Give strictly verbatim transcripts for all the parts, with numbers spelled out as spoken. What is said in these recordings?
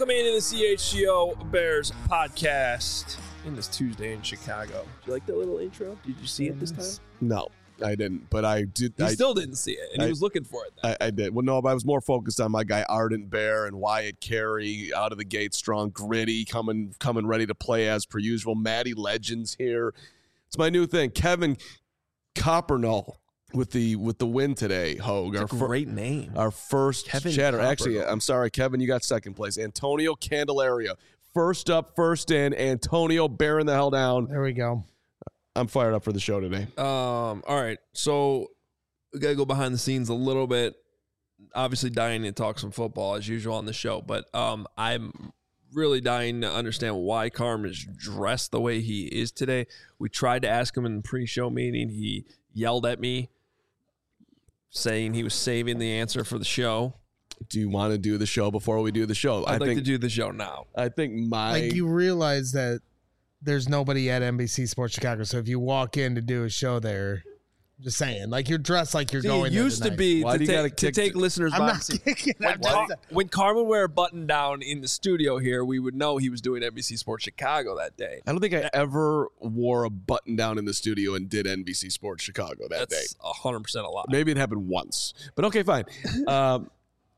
Welcome into the C H G O Bears podcast in this Tuesday in Chicago. Did you like that little intro? Did you see it this time? No, I didn't, but I did. He I, still didn't see it, and I, he was looking for it. Then. I, I did. Well, no, but I was more focused on my guy Ardent Bear and Wyatt Carey out of the gate, strong, gritty, coming, coming ready to play as per usual. Maddie Legends here. It's my new thing. Kevin Coppernull with the with the win today. Hogue, That's our a great name. Our first Kevin chatter. Coppernull. Actually, I'm sorry, Kevin, you got second place. Antonio Candelaria, first up, first in. Antonio bearing the hell down. There we go. I'm fired up for the show today. Um. All right. So we gotta go behind the scenes a little bit. Obviously, dying to talk some football as usual on the show, but um, I'm really dying to understand why Carm is dressed the way he is today. We tried to ask him in the pre-show meeting. He yelled at me, saying he was saving the answer for the show. Do you want to do the show before we do the show? I'd I like think, to do the show now. I think my Like, you realize that there's nobody at N B C Sports Chicago, so if you walk in to do a show there, I'm just saying, like, you're dressed like you're See, going it there used to tonight. be Why to do you gotta take, to kick take the- listeners I'm by not the seat. kicking. When, I'm Car- just, when Carmen wear a button down in the studio here, we would know he was doing N B C Sports Chicago that day. I don't think I ever wore a button down in the studio and did N B C Sports Chicago that day. That's one hundred percent a lie. Maybe it happened once, but okay, fine. um,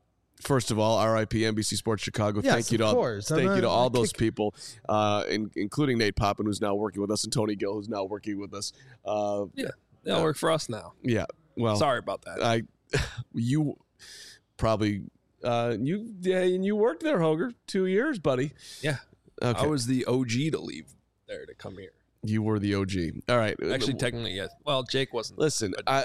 first of all, R I P N B C Sports Chicago. Yes, thank you to of all, course. thank I'm you to not- all I those kick- people, uh, in, including Nate Poppin, who's now working with us, and Tony Gill, who's now working with us. Uh, Yeah, that'll work for us now. yeah. Well, Sorry about that. I, you probably, uh, you yeah, and you worked there, Hoger, two years, buddy. Yeah. Okay. I was the O G to leave there to come here. You were the O G. All right. Actually, technically, yes. Well, Jake wasn't. Listen, I,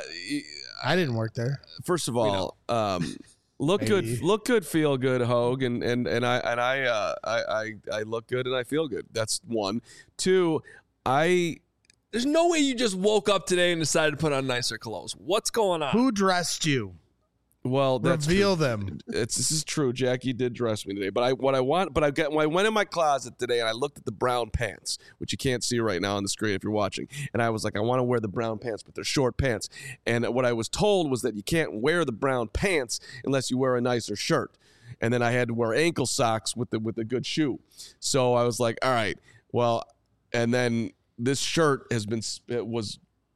I didn't work there. first of all, um, look good, Maybe. look good, feel good, Hogue, and and and I and I, uh, I I I look good and I feel good. That's one. Two, I There's no way you just woke up today and decided to put on nicer clothes. What's going on? Who dressed you? well, that's Reveal true. them. It's this is true. Jackie did dress me today, but I what I want, but I got when I went in my closet today and I looked at the brown pants, which you can't see right now on the screen if you're watching, and I was like, I want to wear the brown pants, but they're short pants. And what I was told was that you can't wear the brown pants unless you wear a nicer shirt. And then I had to wear ankle socks with the with a good shoe. So I was like, all right, well, and then this shirt has been it was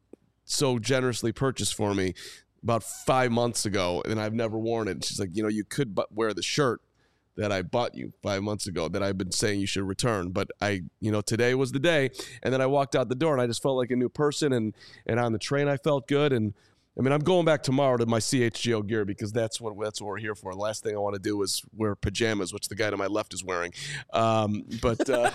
so generously purchased for me about five months ago, and I've never worn it. She's like, you know, you could but wear the shirt that I bought you five months ago that I've been saying you should return. But I, you know, today was the day. And then I walked out the door and I just felt like a new person. And, and on the train, I felt good. And I mean, I'm going back tomorrow to my C H G O gear because that's what, that's what we're here for. The last thing I want to do is wear pajamas, which the guy to my left is wearing. Um, but, uh,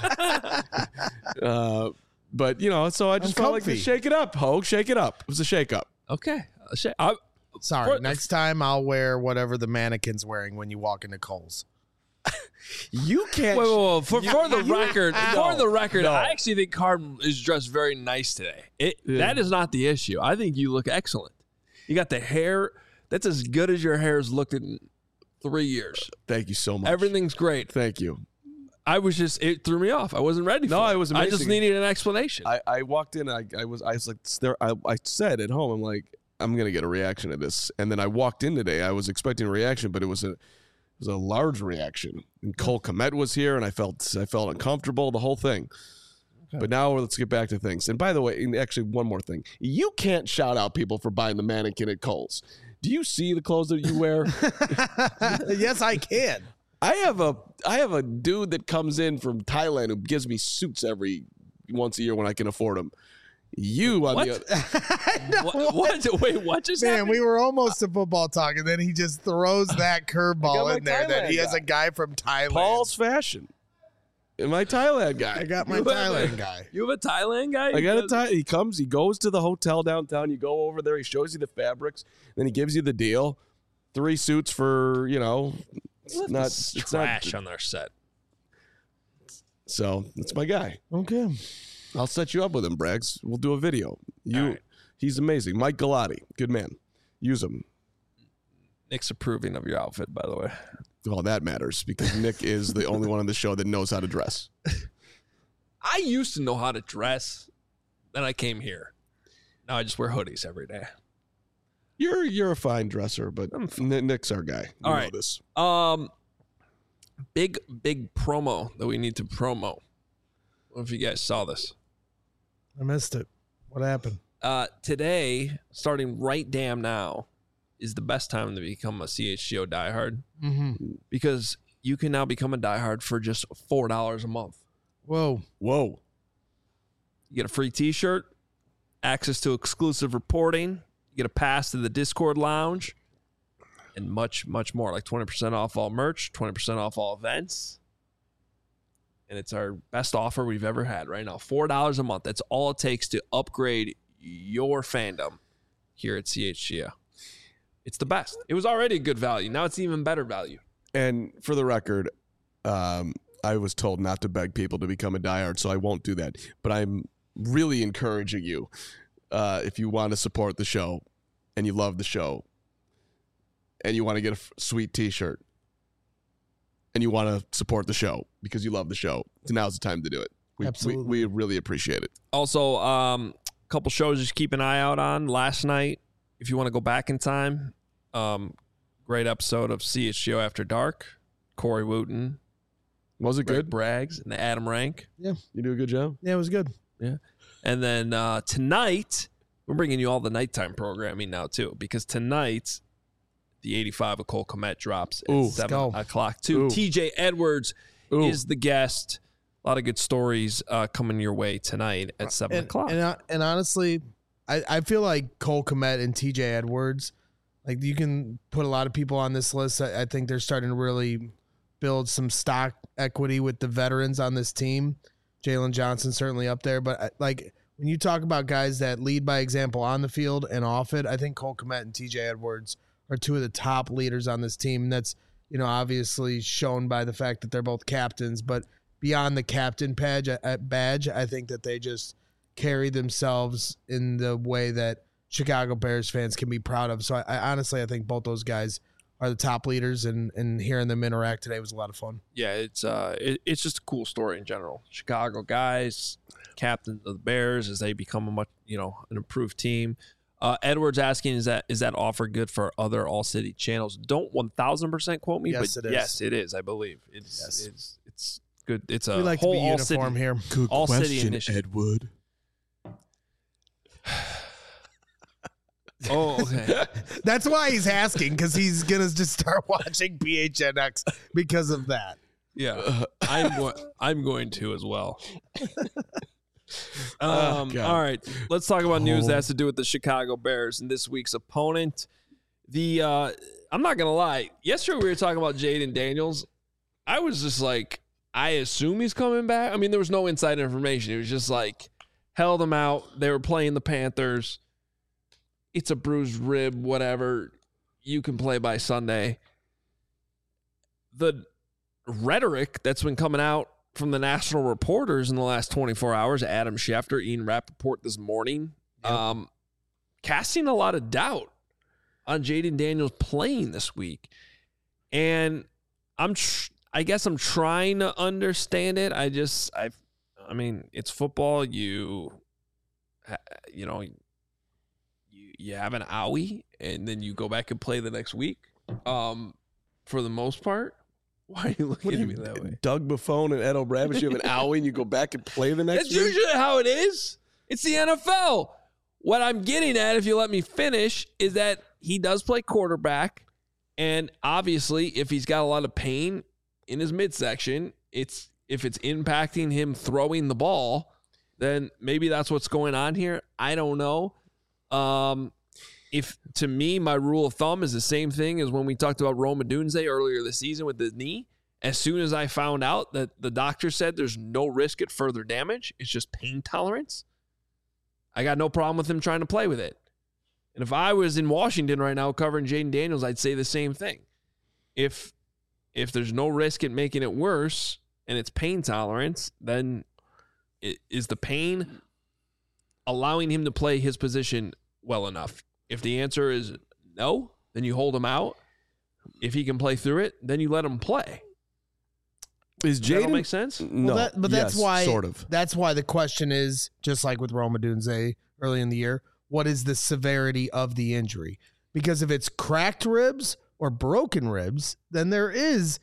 uh, but you know, so I just I'm felt like to comfy. shake it up, Hogue, shake it up. It was a shake up. Okay. Uh, sh- I, Sorry. For- Next time I'll wear whatever the mannequin's wearing when you walk into Kohl's. You can't. Wait, wait, wait. For, for the you- record, No, for the record, no. I actually think Carden is dressed very nice today. It, Yeah. That is not the issue. I think you look excellent. You got the hair. That's as good as your hair's looked in three years. Thank you so much. Everything's great. Thank you. I was just, it threw me off. I wasn't ready for No, it. it was I just amazing. needed an explanation. I, I walked in and I, I was I was like there I, I said at home, I'm like, I'm gonna get a reaction to this. And then I walked in today. I was expecting a reaction, but it was a it was a large reaction. And Cole Kmet was here and I felt I felt uncomfortable, the whole thing. But now let's get back to things. And by the way, and actually one more thing. You can't shout out people for buying the mannequin at Kohl's. Do you see the clothes that you wear? Yes, I can. I have a I have a dude that comes in from Thailand who gives me suits every once a year when I can afford them. You on What? the other, what, what? Wait, what just Man, happened? we were almost to football talk, and then he just throws that I got curveball my in there that he Thailand has guy. a guy from Thailand. Paul's Fashion. And my Thailand guy. I got my You have a- Thailand guy. You have a Thailand guy? I got a Because- Thai. He comes, he goes to the hotel downtown. You go over there, he shows you the fabrics, then he gives you the deal. Three suits for, you know, it's What not, is it's trash not. on their set. So it's my guy. Okay. I'll set you up with him, Braggs. We'll do a video. You, All right. He's amazing. Mike Galati, good man. Use him. Nick's approving of your outfit, by the way. Well, that matters because Nick is the only one on the show that knows how to dress. I used to know how to dress. Then I came here. Now I just wear hoodies every day. You're you're a fine dresser, but Nick's our guy. You All know right. this. Um, big, big promo that we need to promo. I don't know if you guys saw this. I missed it. What happened? Uh, today, starting right damn now, is the best time to become a C H G O diehard Mm-hmm. because you can now become a diehard for just four dollars a month. Whoa. Whoa. You get a free t-shirt, access to exclusive reporting, you get a pass to the Discord lounge, and much, much more, like twenty percent off all merch, twenty percent off all events. And it's our best offer we've ever had right now. four dollars a month. That's all it takes to upgrade your fandom here at C H G O. It's the best. It was already a good value. Now it's even better value. And for the record, um, I was told not to beg people to become a diehard, so I won't do that. But I'm really encouraging you, uh, if you want to support the show and you love the show and you want to get a f- sweet t-shirt and you want to support the show because you love the show, now's the time to do it. We, Absolutely. We, we really appreciate it. Also, um, a couple shows just keep an eye out on. Last night, if you want to go back in time, um, great episode of C H G O After Dark. Corey Wooten, Was it Greg good? Braggs, and Adam Rank. You do a good job. Yeah, it was good. Yeah. And then uh, tonight, we're bringing you all the nighttime programming now, too, because tonight, the eighty-five of Cole Kmet drops at Ooh, seven go. o'clock, too. Ooh. T J Edwards Ooh. is the guest. A lot of good stories uh, coming your way tonight at seven And, o'clock. and, uh, and honestly, I, I feel like Cole Kmet and T J Edwards, like you can put a lot of people on this list. I, I think they're starting to really build some stock equity with the veterans on this team. Jalen Johnson certainly up there, but I, like when you talk about guys that lead by example on the field and off it, I think Cole Kmet and T J Edwards are two of the top leaders on this team. And that's, you know, obviously shown by the fact that they're both captains, but beyond the captain badge, uh, badge, I think that they just carry themselves in the way that Chicago Bears fans can be proud of. So I, I honestly, I think both those guys are the top leaders, and, and hearing them interact today was a lot of fun. Yeah, it's uh, it, it's just a cool story in general. Chicago guys, captains of the Bears as they become a much, you know, an improved team. Uh, Edwards asking, is that is that offer good for other All City channels? Don't one thousand percent quote me, Yes, but it is. yes, it is. I believe it's Yes. it's it's good. It's a We like to whole be All uniform City. here. Good All City initiative. Edward. Oh, okay. That's why he's asking, because he's gonna just start watching P H N X because of that. Yeah, I'm go- I'm going to as well. Oh, um, God. all right, let's talk about news Oh. that has to do with the Chicago Bears and this week's opponent. The uh, I'm not gonna lie. Yesterday we were talking about Jaden Daniels. I was just like, I assume he's coming back. I mean, there was no inside information. It was just like held him out. They were playing the Panthers. It's a bruised rib, whatever. You can play by Sunday. The rhetoric that's been coming out from the national reporters in the last twenty-four hours, Adam Schefter, Ian Rappaport this morning, Yep. um, casting a lot of doubt on Jaden Daniels playing this week. And I'm, tr- I guess I'm trying to understand it. I just, I, I mean, it's football. You, ha- you know, you, you have an owie and then you go back and play the next week. Um, for the most part. Why are you looking What at do me you, that way? Doug Buffon and Ed O'Bravish, you have an owie and you go back and play the next That's week? usually how it is. It's the N F L. What I'm getting at, if you let me finish, is that he does play quarterback. And obviously, if he's got a lot of pain in his midsection, it's if it's impacting him throwing the ball, then maybe that's what's going on here. I don't know. Um, if to me, my rule of thumb is the same thing as when we talked about Rome Odunze earlier this season with the knee. As soon as I found out that the doctor said there's no risk at further damage, it's just pain tolerance, I got no problem with him trying to play with it. And if I was in Washington right now covering Jaden Daniels, I'd say the same thing. If if there's no risk at making it worse and it's pain tolerance, then it, is the pain allowing him to play his position well enough? If the answer is no, then you hold him out. If he can play through it, then you let him play. Is Does that all Jaden make sense? No, Well, that, but that's yes, why sort of. That's why the question is, just like with Rome Odunze early in the year, what is the severity of the injury? Because if it's cracked ribs or broken ribs, then there is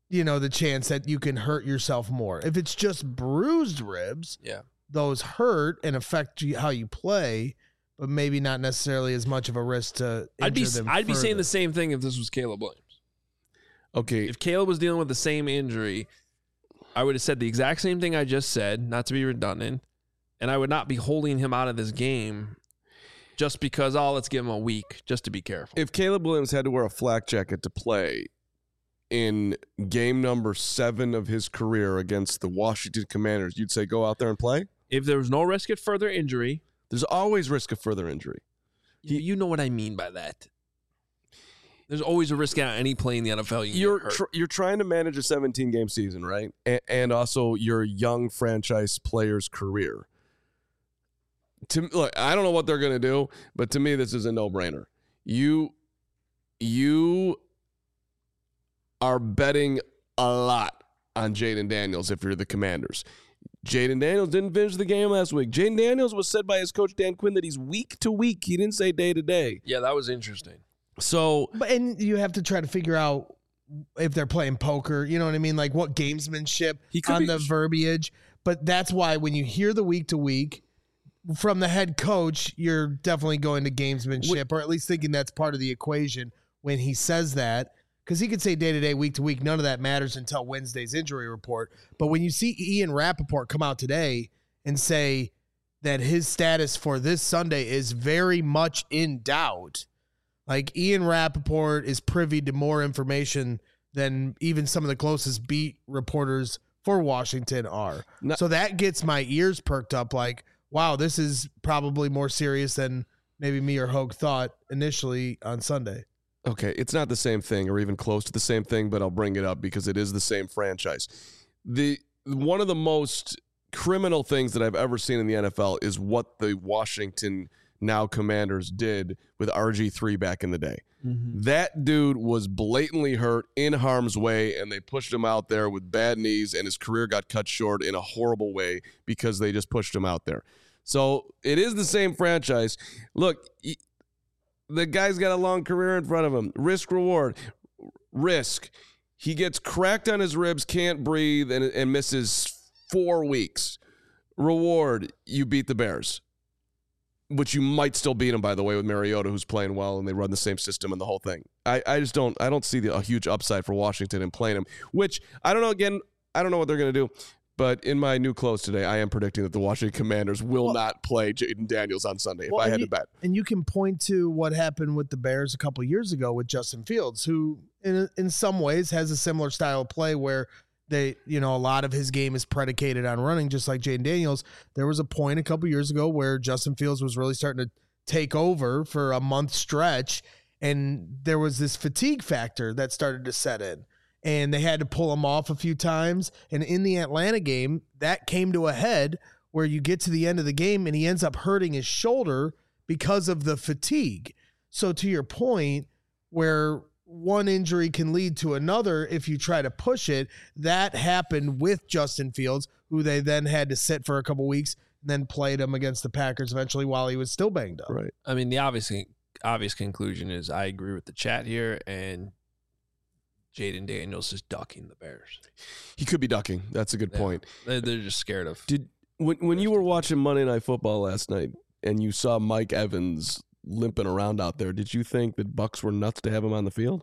you know, the chance that you can hurt yourself more. If it's just bruised ribs, yeah, those hurt and affect you, how you play, but maybe not necessarily as much of a risk to I'd be injure them I'd be saying further. the same thing if this was Caleb Williams. Okay. If Caleb was dealing with the same injury, I would have said the exact same thing I just said, not to be redundant, and I would not be holding him out of this game just because, oh, let's give him a week just to be careful. If Caleb Williams had to wear a flak jacket to play in game number seven of his career against the Washington Commanders, you'd say go out there and play? If there was no risk of further injury. There's always risk of further injury. You, you know what I mean by that. There's always a risk on any play in the N F L. You You're hurt. tr- you're trying to manage a seventeen-game season, right? A- and also your young franchise player's career. To look, I don't know what they're going to do, but to me, this is a no-brainer. You, you are betting a lot on Jaden Daniels if you're the Commanders. Jaden Daniels didn't finish the game last week. Jaden Daniels was said by his coach Dan Quinn that he's week to week. He didn't say day to day. Yeah, that was interesting. So, But and you have to try to figure out if they're playing poker, you know what I mean? Like what gamesmanship He could on be- the verbiage. But that's why when you hear the week to week from the head coach, you're definitely going to gamesmanship, or at least thinking that's part of the equation when he says that. Because he could say day to day, week to week, none of that matters until Wednesday's injury report. But when you see Ian Rappaport come out today and say that his status for this Sunday is very much in doubt, like Ian Rappaport is privy to more information than even some of the closest beat reporters for Washington are. No- So that gets my ears perked up like, wow, this is probably more serious than maybe me or Hogue thought initially on Sunday. okay, it's not the same thing or even close to the same thing, but I'll bring it up because it is the same franchise. The one of the most criminal things that I've ever seen in the N F L is what the Washington now Commanders did with R G three back in the day. Mm-hmm. That dude was blatantly hurt in harm's way, and they pushed him out there with bad knees, and his career got cut short in a horrible way because they just pushed him out there. So it is the same franchise. Look, he, the guy's got a long career in front of him. Risk, reward. Risk. He gets cracked on his ribs, can't breathe, and, and misses four weeks. Reward, you beat the Bears. Which you might still beat him, by the way, with Mariota, who's playing well, and they run the same system and the whole thing. I, I just don't I don't see the, a huge upside for Washington in playing him, which I don't know. Again, I don't know what they're going to do. But in my new clothes today, I am predicting that the Washington Commanders will Well, not play Jaden Daniels on Sunday if Well, I and had you, to bet. And you can point to what happened with the Bears a couple years ago with Justin Fields, who in in some ways has a similar style of play where they, you know, a lot of his game is predicated on running, just like Jaden Daniels. There was a point a couple years ago where Justin Fields was really starting to take over for a month stretch, and there was this fatigue factor that started to set in. And they had to pull him off a few times. And in the Atlanta game, that came to a head where you get to the end of the game and he ends up hurting his shoulder because of the fatigue. So to your point, where one injury can lead to another if you try to push it, that happened with Justin Fields, who they then had to sit for a couple weeks and then played him against the Packers eventually while he was still banged up. Right. I mean, the obvious obvious conclusion is I agree with the chat here, and Jaden Daniels is ducking the Bears. He could be ducking. That's a good Yeah. point. They're, they're just scared of. Did when when you were watching Monday Night Football last night and you saw Mike Evans limping around out there, did you think that Bucks were nuts to have him on the field?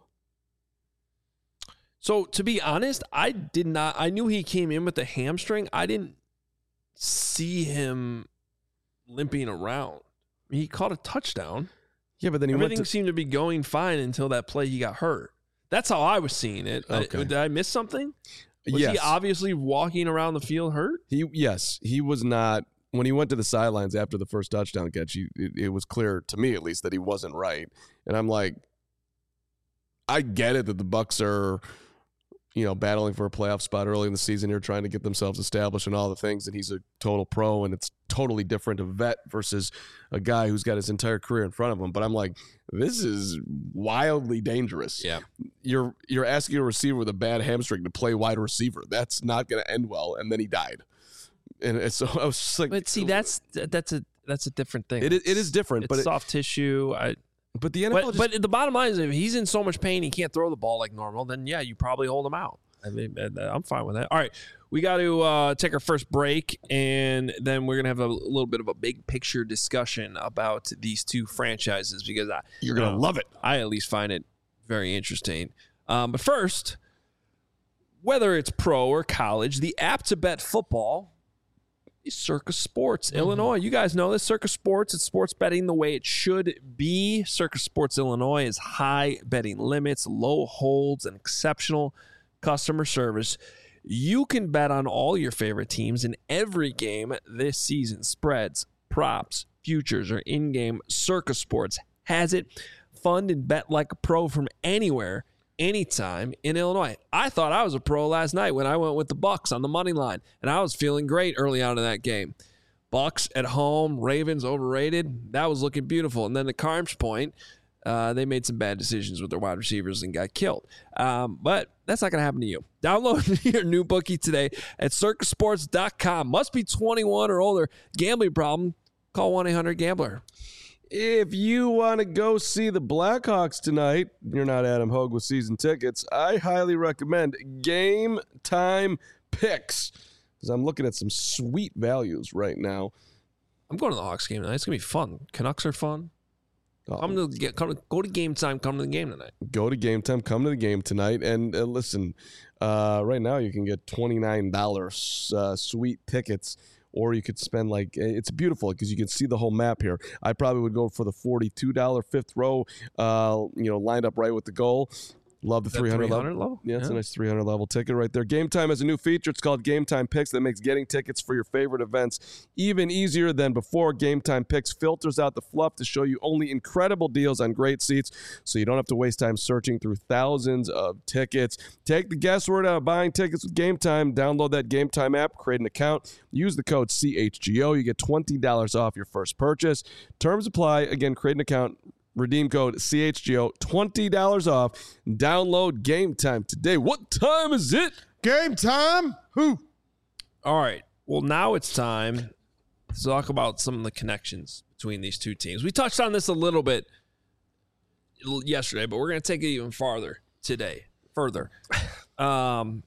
So to be honest, I did not. I knew he came in with a hamstring. I didn't see him limping around. He caught a touchdown. Yeah, but then he Everything went to, seemed to be going fine until that play he got hurt. That's how I was seeing it. I- Okay. did I miss something? Was yes. he obviously walking around the field hurt? He yes, he was not. When he went to the sidelines after the first touchdown catch, he, it, it was clear to me at least that he wasn't right. And I'm like, I get it that the Bucks are, you know, battling for a playoff spot early in the season here, trying to get themselves established and all the things. And he's a total pro, and it's totally different, a vet versus a guy who's got his entire career in front of him. But I'm like, this is wildly dangerous. Yeah. You're you're asking a receiver with a bad hamstring to play wide receiver. That's not going to end well. And then he died. And so I was just like, But see, that's that's a that's a different thing. it is, it is different, It's but it, soft tissue. I, but the N F L but, just, but the bottom line is, if he's in so much pain he can't throw the ball like normal, then yeah, you probably hold him out. I mean, I'm fine with that. All right. We got to uh, take our first break, and then we're going to have a little bit of a big picture discussion about these two franchises because I, You're going to uh, love it. I at least find it very interesting. Um, but first, whether it's pro or college, the app to bet football is Circus Sports mm-hmm. Illinois. You guys know this. Circus Sports, it's sports betting the way it should be. Circus Sports Illinois is high betting limits, low holds, and exceptional customer service. You can bet on all your favorite teams in every game this season. Spreads, props, futures, or in-game. Circus Sports has it. Fund and bet like a pro from anywhere, anytime in Illinois. I thought I was a pro last night when I went with the Bucks on the money line, and I was feeling great early on in that game. Bucks at home, Ravens overrated. That was looking beautiful. And then the Carms point, Uh, they made some bad decisions with their wide receivers and got killed. Um, but that's not going to happen to you. Download your new bookie today at circus sports dot com. Must be twenty-one or older. Gambling problem? Call one eight hundred gambler. If you want to go see the Blackhawks tonight, you're not Adam Hogue with season tickets, I highly recommend Game Time Picks because I'm looking at some sweet values right now. I'm going to the Hawks game tonight. It's going to be fun. Canucks are fun. Oh. Come to get come to, go to game time. Come to the game tonight. Go to game time. Come to the game tonight. And uh, listen, uh, right now you can get twenty-nine dollars uh, sweet tickets, or you could spend like it's beautiful because you can see the whole map here. I probably would go for the forty-two dollars fifth row. Uh, you know, lined up right with the goal. Love the three hundred level. level. Yeah, it's yeah. a nice three hundred level ticket right there. Game Time has a new feature. It's called Game Time Picks that makes getting tickets for your favorite events even easier than before. Game Time Picks filters out the fluff to show you only incredible deals on great seats so you don't have to waste time searching through thousands of tickets. Take the guesswork out of buying tickets with Game Time. Download that Game Time app, create an account, use the code C H G O. You get twenty dollars off your first purchase. Terms apply. Again, create an account. Redeem code C H G O, twenty dollars off. Download Game Time today. What time is it? Game time. Who? All right. Well, now it's time to talk about some of the connections between these two teams. We touched on this a little bit yesterday, but we're going to take it even farther today. Further. Um,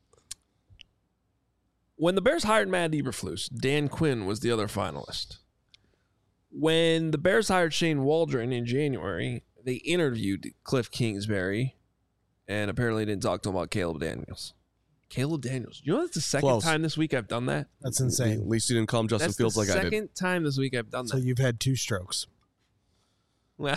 when the Bears hired Matt Eberflus, Dan Quinn was the other finalist. When the Bears hired Shane Waldron in January, they interviewed Cliff Kingsbury and apparently didn't talk to him about Caleb Daniels. Caleb Daniels. You know that's the second Close. time this week I've done that? That's insane. At least you didn't call him Justin That's Fields the like I did. second time this week I've done So that. you've had two strokes. Well,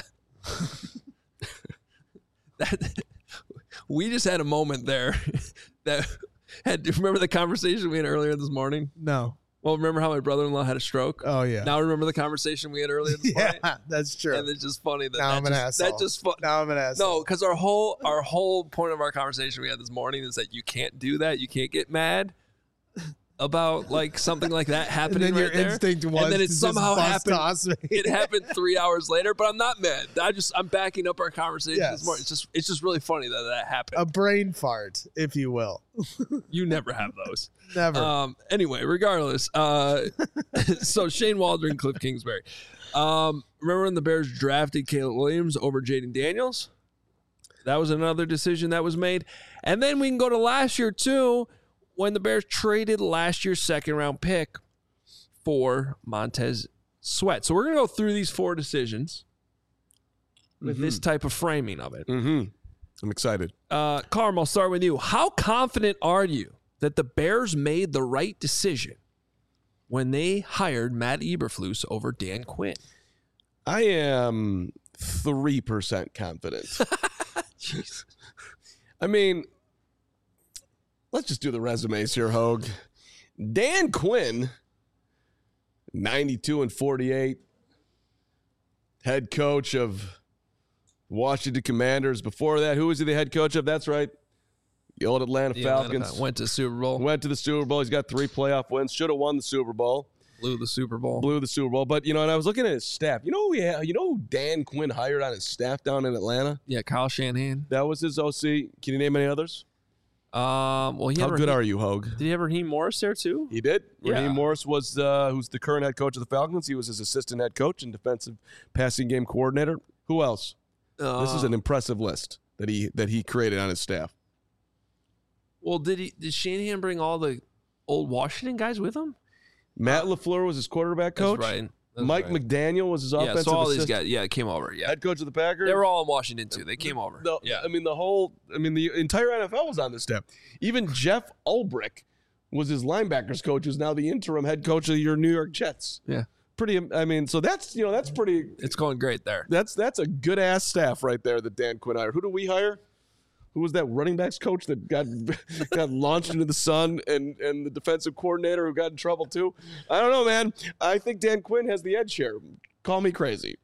that, we just had a moment there that had. Remember the conversation we had earlier this morning? No. Well, remember how my brother-in-law had a stroke? Oh, yeah. Now remember the conversation we had earlier this morning? Yeah, that's true. And it's just funny that Now that I'm an just, asshole. that just fu- now I'm an asshole. No, because our whole our whole point of our conversation we had this morning is that you can't do that. You can't get mad about like something like that happening and then right your there. instinct was and then it to just somehow bust happened. toss me. It happened three hours later, but I'm not mad. I just I'm backing up our conversation Yes. this morning. It's just it's just really funny that that happened. A brain fart, if you will. You never have those. Never. Um, anyway, regardless, uh, so Shane Waldron, Cliff Kingsbury. Um, remember when the Bears drafted Caleb Williams over Jaden Daniels? That was another decision that was made. And then we can go to last year, too, when the Bears traded last year's second-round pick for Montez Sweat. So we're going to go through these four decisions with Mm-hmm. this type of framing of it. Mm-hmm. I'm excited. Uh, Carm, I'll start with you. How confident are you that the Bears made the right decision when they hired Matt Eberflus over Dan Quinn? I am three percent confident. Jeez. I mean, let's just do the resumes here, Hogue. Dan Quinn, ninety-two and forty-eight, head coach of Washington Commanders. Before that, who was he the head coach of? That's right. The old Atlanta The Atlanta Falcons. Falcons went to Super Bowl, Went to the Super Bowl. He's got three playoff wins. Should have won the Super Bowl. blew the Super Bowl. Blew the Super Bowl. But, you know, and I was looking at his staff. You know who, he had, you know who Dan Quinn hired on his staff down in Atlanta? Yeah, Kyle Shanahan. That was his O C. Can you name any others? Um, well, he How had good Raheem, are you, Hogue? Did he have Raheem Morris there too? He did. Yeah. Raheem Morris was uh, who's the current head coach of the Falcons. He was his assistant head coach and defensive passing game coordinator. Who else? Uh, This is an impressive list that he that he created on his staff. Well, did he? Did Shanahan bring all the old Washington guys with him? Matt LaFleur was his quarterback coach. That's right. That's Mike right. McDaniel was his Yeah, offensive so all these assistant. guys, yeah, came over. Yeah, Head coach of the Packers. they were all in Washington too. They came over. The, yeah, I mean the whole. I mean the entire N F L was on this staff. Even Jeff Ulbrich was his linebackers coach, who's now the interim head coach of your New York Jets. yeah, Pretty. I mean, so that's you know that's pretty. it's going great there. That's that's a good ass staff right there that Dan Quinn hired. Who do we hire? Who was that running backs coach that got got launched into the sun, and and the defensive coordinator who got in trouble too? I don't know, man. I think Dan Quinn has the edge here. Call me crazy.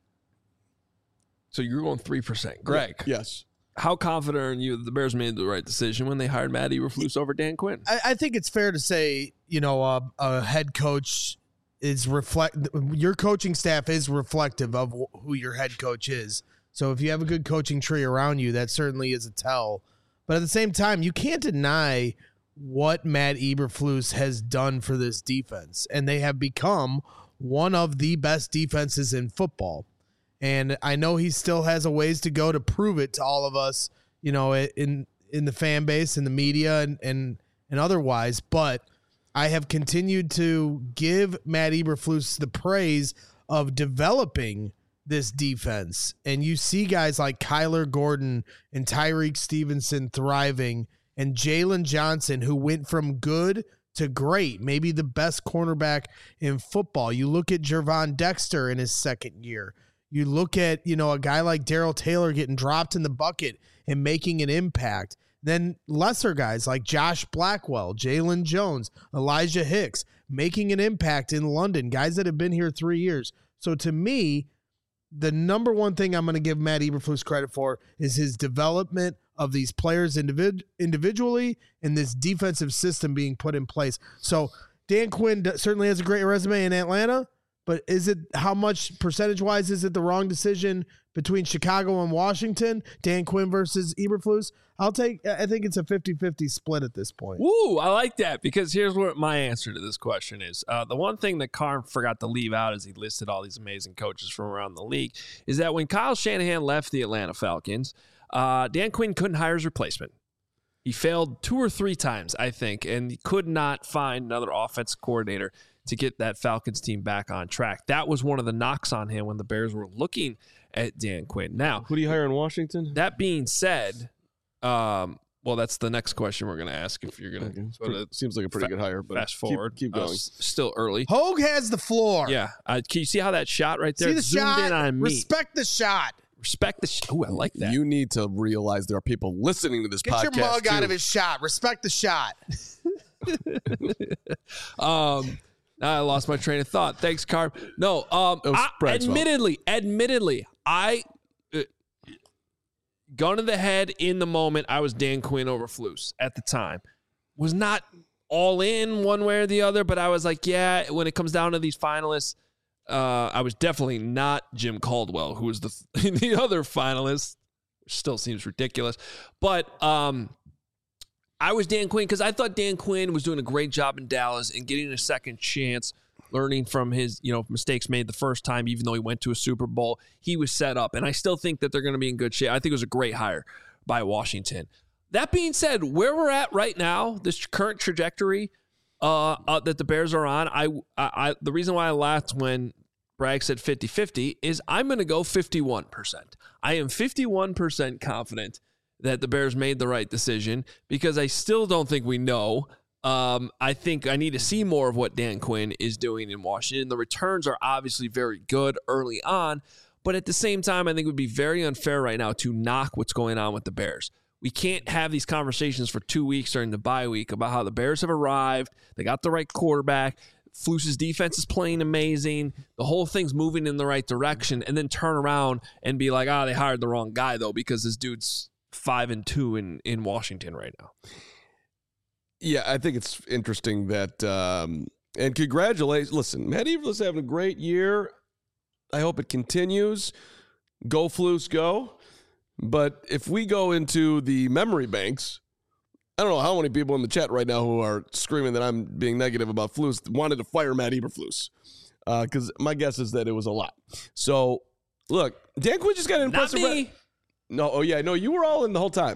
So you're going three percent, Greg. Yes. How confident are you that the Bears made the right decision when they hired Matt Eberflus over Dan Quinn? I, I think it's fair to say, you know, uh, a head coach is reflect. Your coaching staff is reflective of wh- who your head coach is. So if you have a good coaching tree around you, that certainly is a tell. But at the same time, you can't deny what Matt Eberflus has done for this defense, and they have become one of the best defenses in football. And I know he still has a ways to go to prove it to all of us, you know, in in the fan base, in the media, and and, and otherwise. But I have continued to give Matt Eberflus the praise of developing this defense. And you see guys like Kyler Gordon and Tyreek Stevenson thriving, and Jalen Johnson, who went from good to great, maybe the best cornerback in football. You look at Gervon Dexter in his second year. You look at, you know, a guy like Darrell Taylor getting dropped in the bucket and making an impact. Then lesser guys like Josh Blackwell, Jalen Jones, Elijah Hicks, making an impact in London, guys that have been here three years. So to me, the number one thing I'm going to give Matt Eberflus credit for is his development of these players individ- individually and this defensive system being put in place. So Dan Quinn d- certainly has a great resume in Atlanta, but is it, how much percentage-wise is it the wrong decision between Chicago and Washington, Dan Quinn versus Eberflus? I'll take, I think it's a fifty-fifty split at this point. Woo, I like that, because here's what my answer to this question is. Uh, the one thing that Carm forgot to leave out as he listed all these amazing coaches from around the league is that when Kyle Shanahan left the Atlanta Falcons, uh, Dan Quinn couldn't hire his replacement. He failed two or three times, I think, and he could not find another offensive coordinator to get that Falcons team back on track. That was one of the knocks on him when the Bears were looking at Dan Quinn. Now, Who do you hire in Washington? that being said, um, well, that's the next question we're going to ask if you're going Okay. to okay. Seems like a pretty fa- good hire, but fast keep- forward. Keep, Uh, going. s- still early. Hogue has the floor. Yeah. Uh, can you see how that shot right there See the zoomed shot? in on me? Respect the shot. Respect the shot. Oh, I like that. You need to realize there are people listening to this Get podcast. your mug out too. of his shot. Respect the shot. um, I lost my train of thought. Thanks, Carm. No, um, It was I, Brad's fault. admittedly, admittedly, I uh, gun to the head in the moment. I was Dan Quinn over Flus at the time. Was not all in one way or the other, but I was like, yeah. When it comes down to these finalists, uh, I was definitely not Jim Caldwell, who was the the other finalist. Which still seems ridiculous, but um. I was Dan Quinn because I thought Dan Quinn was doing a great job in Dallas and getting a second chance, learning from his, you know, mistakes made the first time, even though he went to a Super Bowl. He was set up, and I still think that they're going to be in good shape. I think it was a great hire by Washington. That being said, where we're at right now, this current trajectory uh, uh, that the Bears are on, I, I, I the reason why I laughed when Bragg said fifty-fifty is I'm going to go fifty-one percent. I am fifty-one percent confident that the Bears made the right decision because I still don't think we know. Um, I think I need to see more of what Dan Quinn is doing in Washington. The returns are obviously very good early on, but at the same time, I think it would be very unfair right now to knock what's going on with the Bears. We can't have these conversations for two weeks during the bye week about how the Bears have arrived. They got the right quarterback. Flus's defense is playing amazing. The whole thing's moving in the right direction, and then turn around and be like, ah, oh, they hired the wrong guy, though, because this dude's five and two in, in Washington right now. Yeah, I think it's interesting that, um, and congratulations. Listen, Matt Eberflus having a great year. I hope it continues. Go Flus, go. But if we go into the memory banks, I don't know how many people in the chat right now who are screaming that I'm being negative about Flus wanted to fire Matt Eberflus. Because uh, my guess is that it was a lot. So, look, Dan Quinn just got an Not impressive... me. Re- no, oh yeah, no, you were all in the whole time.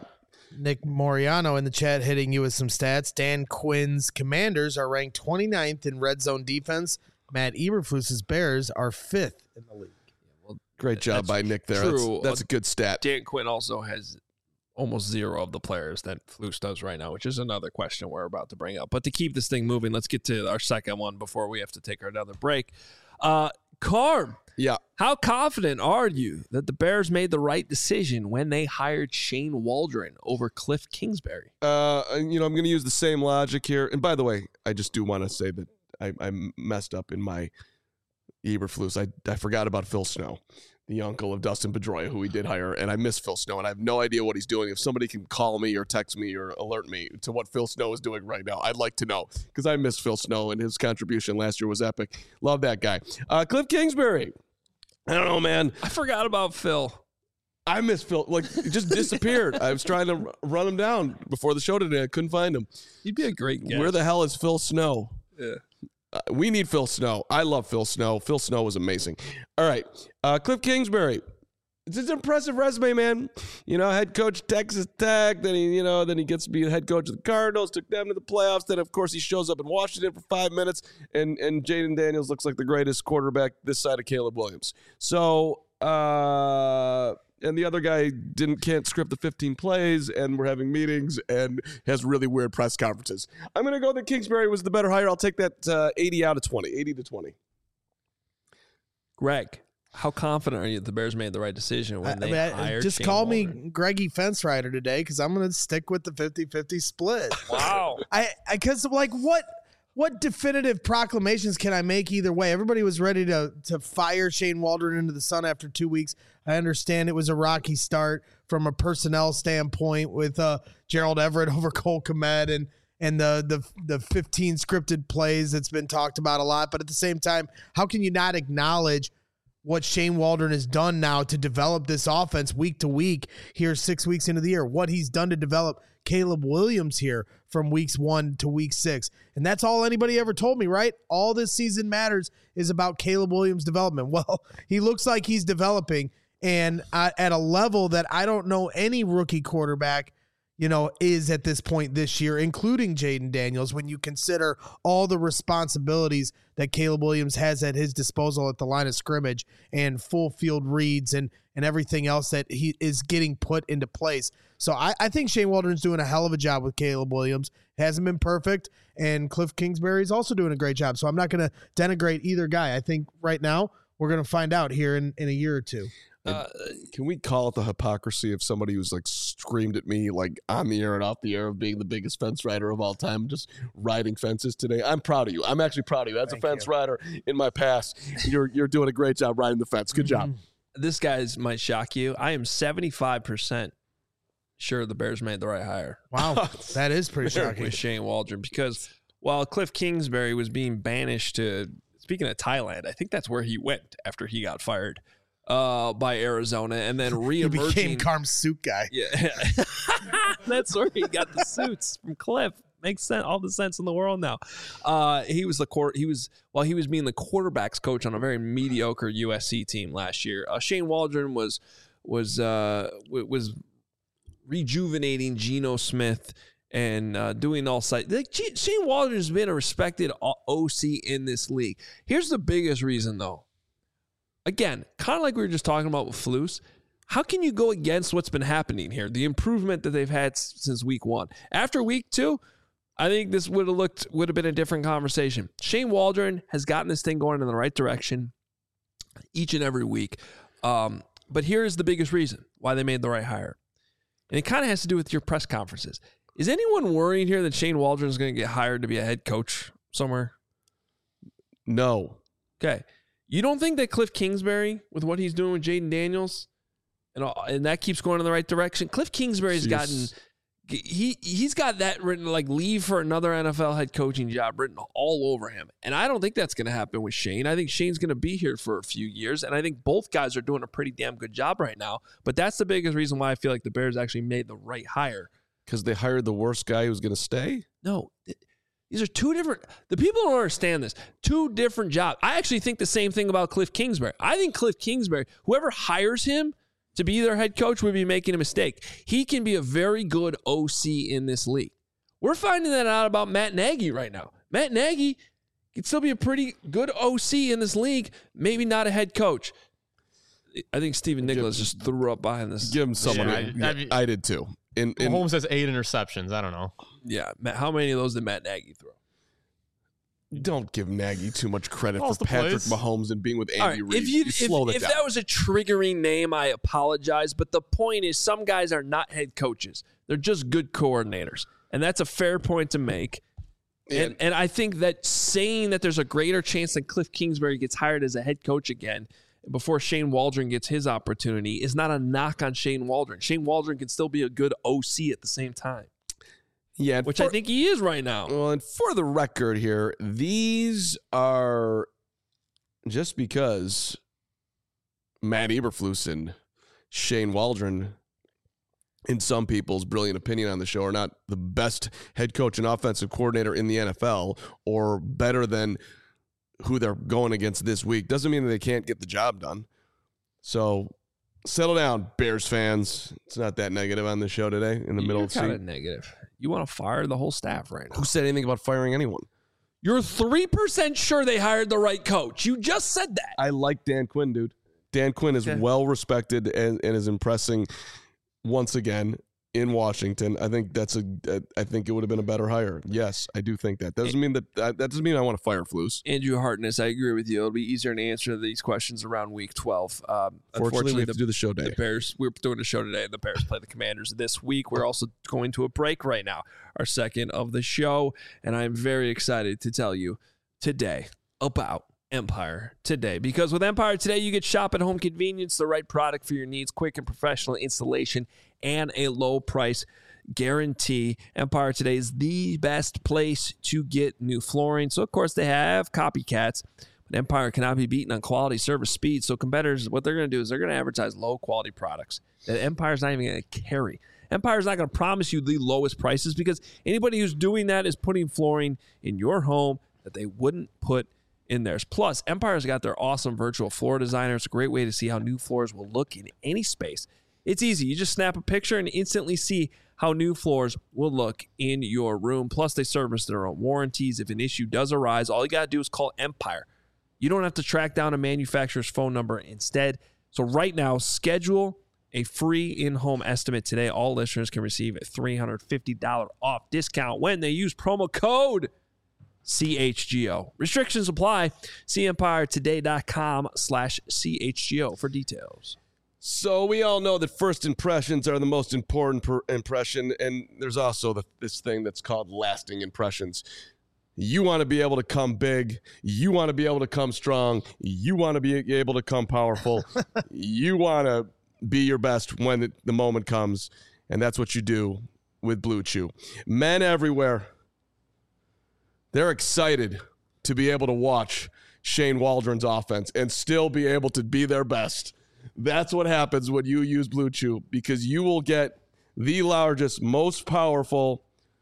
Nick Moriano in the chat hitting you with some stats. Dan Quinn's Commanders are ranked twenty-ninth in red zone defense. Matt Eberflus's Bears are fifth in the league. Great job by Nick there. True. That's, that's a good stat. Dan Quinn also has almost zero of the players that Flus does right now, which is another question we're about to bring up. But to keep this thing moving, let's get to our second one before we have to take another break. Uh, Carm, Yeah. how confident are you that the Bears made the right decision when they hired Shane Waldron over Cliff Kingsbury? Uh, and, you know, I'm going to use the same logic here. And by the way, I just do want to say that I, I messed up in my Eberflus. I, I forgot about Phil Snow, the uncle of Dustin Pedroia, who we did hire, and I miss Phil Snow, and I have no idea what he's doing. If somebody can call me or text me or alert me to what Phil Snow is doing right now, I'd like to know, because I miss Phil Snow, and his contribution last year was epic. Love that guy. Uh, Cliff Kingsbury. I don't know, man. I forgot about Phil. I miss Phil. Like, it just disappeared. I was trying to run him down before the show today. I couldn't find him. He'd be a great guest. Where the hell is Phil Snow? Yeah. Uh, we need Phil Snow. I love Phil Snow. Phil Snow was amazing. All right. Uh, Cliff Kingsbury. It's an impressive resume, man. You know, head coach Texas Tech. Then he, you know, then he gets to be the head coach of the Cardinals. Took them to the playoffs. Then, of course, he shows up in Washington for five minutes, and and Jaden Daniels looks like the greatest quarterback this side of Caleb Williams. So, uh, and the other guy didn't can't script the fifteen plays, and we're having meetings, and has really weird press conferences. I'm gonna go that Kingsbury was the better hire. I'll take that uh, eighty out of twenty, eighty to twenty. Greg, how confident are you that the Bears made the right decision when I, they I mean, hired just Shane call Waldron? me Greggy Fence Rider today because I'm going to stick with the fifty-fifty split. Wow. I because like what what definitive proclamations can I make either way? Everybody was ready to to fire Shane Waldron into the sun after two weeks. I understand it was a rocky start from a personnel standpoint with uh, Gerald Everett over Cole Kmet and and the the the fifteen scripted plays that's been talked about a lot. But at the same time, how can you not acknowledge what Shane Waldron has done now to develop this offense week to week here six weeks into the year, what he's done to develop Caleb Williams here from weeks one to week six. And that's all anybody ever told me, right? All this season matters is about Caleb Williams' development. Well, he looks like he's developing and uh, at a level that I don't know any rookie quarterback you know, is at this point this year, including Jaden Daniels, when you consider all the responsibilities that Caleb Williams has at his disposal at the line of scrimmage and full field reads and, and everything else that he is getting put into place. So I, I think Shane Waldron's doing a hell of a job with Caleb Williams. Hasn't been perfect, and Cliff Kingsbury is also doing a great job. So I'm not going to denigrate either guy. I think right now we're going to find out here in, in a year or two. Uh, Can we call it the hypocrisy of somebody who's like screamed at me like on the air and off the air of being the biggest fence rider of all time, just riding fences today? I'm proud of you. I'm actually proud of you. As Thank a fence you. rider in my past, you're you're doing a great job riding the fence. Good job. this guy's might shock you. I am seventy-five percent sure the Bears made the right hire Wow, that is pretty shocking. with Shane Waldron, because while Cliff Kingsbury was being banished to, speaking of Thailand, I think that's where he went after he got fired uh, by Arizona, and then He became reemerging. Carm's suit guy. Yeah, that's where he got the suits from Cliff. Makes sense, all the sense in the world now. Uh, he was the court. He was while he was being the quarterbacks coach on a very mediocre U S C team last year. Uh, Shane Waldron was was uh, w- was rejuvenating Geno Smith and uh, doing all sides. Like, G- Shane Waldron has been a respected O C in this league. Here's the biggest reason, though. Again, kind of like we were just talking about with Flus. How can you go against what's been happening here? The improvement that they've had s- since week one. After week two, I think this would have looked would have been a different conversation. Shane Waldron has gotten this thing going in the right direction each and every week. Um, but here is the biggest reason why they made the right hire. And it kind of has to do with your press conferences. Is anyone worrying here that Shane Waldron is going to get hired to be a head coach somewhere? No. Okay. You don't think that Cliff Kingsbury, with what he's doing with Jaden Daniels, and all, and that keeps going in the right direction? Cliff Kingsbury's Jeez. gotten he he's got that written, like leave for another N F L head coaching job written all over him. And I don't think that's going to happen with Shane. I think Shane's going to be here for a few years, and I think both guys are doing a pretty damn good job right now. But that's the biggest reason why I feel like the Bears actually made the right hire. Because they hired the worst guy who's going to stay? No, th- these are two different. The people don't understand this. Two different jobs. I actually think the same thing about Cliff Kingsbury. I think Cliff Kingsbury, whoever hires him, to be their head coach would be making a mistake. He can be a very good O C in this league. We're finding that out about Matt Nagy right now. Matt Nagy can still be a pretty good O C in this league, maybe not a head coach. I think Stephen Nicholas give, just threw up behind this. Give him someone. Yeah, yeah, I, mean, I did too. In, in, Mahomes has eight interceptions. I don't know. Yeah. How many of those did Matt Nagy throw? Don't give Nagy too much credit Calls for Patrick plays. Mahomes and being with Andy Right, Reid. if you, you slow if, that if down. that was a triggering name, I apologize. But the point is, some guys are not head coaches; they're just good coordinators, and that's a fair point to make. And, and, and I think that saying that there's a greater chance that Cliff Kingsbury gets hired as a head coach again before Shane Waldron gets his opportunity is not a knock on Shane Waldron. Shane Waldron can still be a good O C at the same time. Yeah, which for, I think he is right now. Well, and for the record here, these are just because Matt Eberflus and Shane Waldron, in some people's brilliant opinion on the show, are not the best head coach and offensive coordinator in the N F L or better than who they're going against this week. Doesn't mean that they can't get the job done. So settle down, Bears fans. It's not that negative on the show today in the You're middle of the kind season. of negative. You want to fire the whole staff right now. Who said anything about firing anyone? You're three percent sure they hired the right coach. You just said that. I like Dan Quinn, dude. Dan Quinn is Okay. well respected and, and is impressing once again in Washington. I think that's a. I think it would have been a better hire. Yes, I do think that. That doesn't mean that. That doesn't mean I want to fire Flus. Andrew Hartness, I agree with you. It'll be easier to answer these questions around week twelve. Um, Fortunately, we have the, to do the show the day. Bears, we're doing a show today, and the Bears play the Commanders this week. We're also going to a break right now, our second of the show, and I'm very excited to tell you today about Empire Today, because with Empire Today, you get shop at home convenience, the right product for your needs, quick and professional installation, and a low price guarantee. Empire Today is the best place to get new flooring. So, of course, they have copycats, but Empire cannot be beaten on quality, service, speed. So, competitors, what they're going to do is they're going to advertise low-quality products that Empire's not even going to carry. Empire's not going to promise you the lowest prices, because anybody who's doing that is putting flooring in your home that they wouldn't put in theirs. Plus, Empire's got their awesome virtual floor designer. It's a great way to see how new floors will look in any space. It's easy. You just snap a picture and instantly see how new floors will look in your room. Plus, they service their own warranties. If an issue does arise, all you got to do is call Empire. You don't have to track down a manufacturer's phone number instead. So right now, schedule a free in-home estimate today. All listeners can receive a three hundred fifty dollars off discount when they use promo code C H G O. Restrictions apply. See empire today dot com slash C H G O for details. So we all know that first impressions are the most important per impression, and there's also the, this thing that's called lasting impressions. You want to be able to come big. You want to be able to come strong. You want to be able to come powerful. You want to be your best when the, the moment comes, and that's what you do with Blue Chew. Men everywhere, they're excited to be able to watch Shane Waldron's offense and still be able to be their best. That's what happens when you use Blue Chew, because you will get the largest, most powerful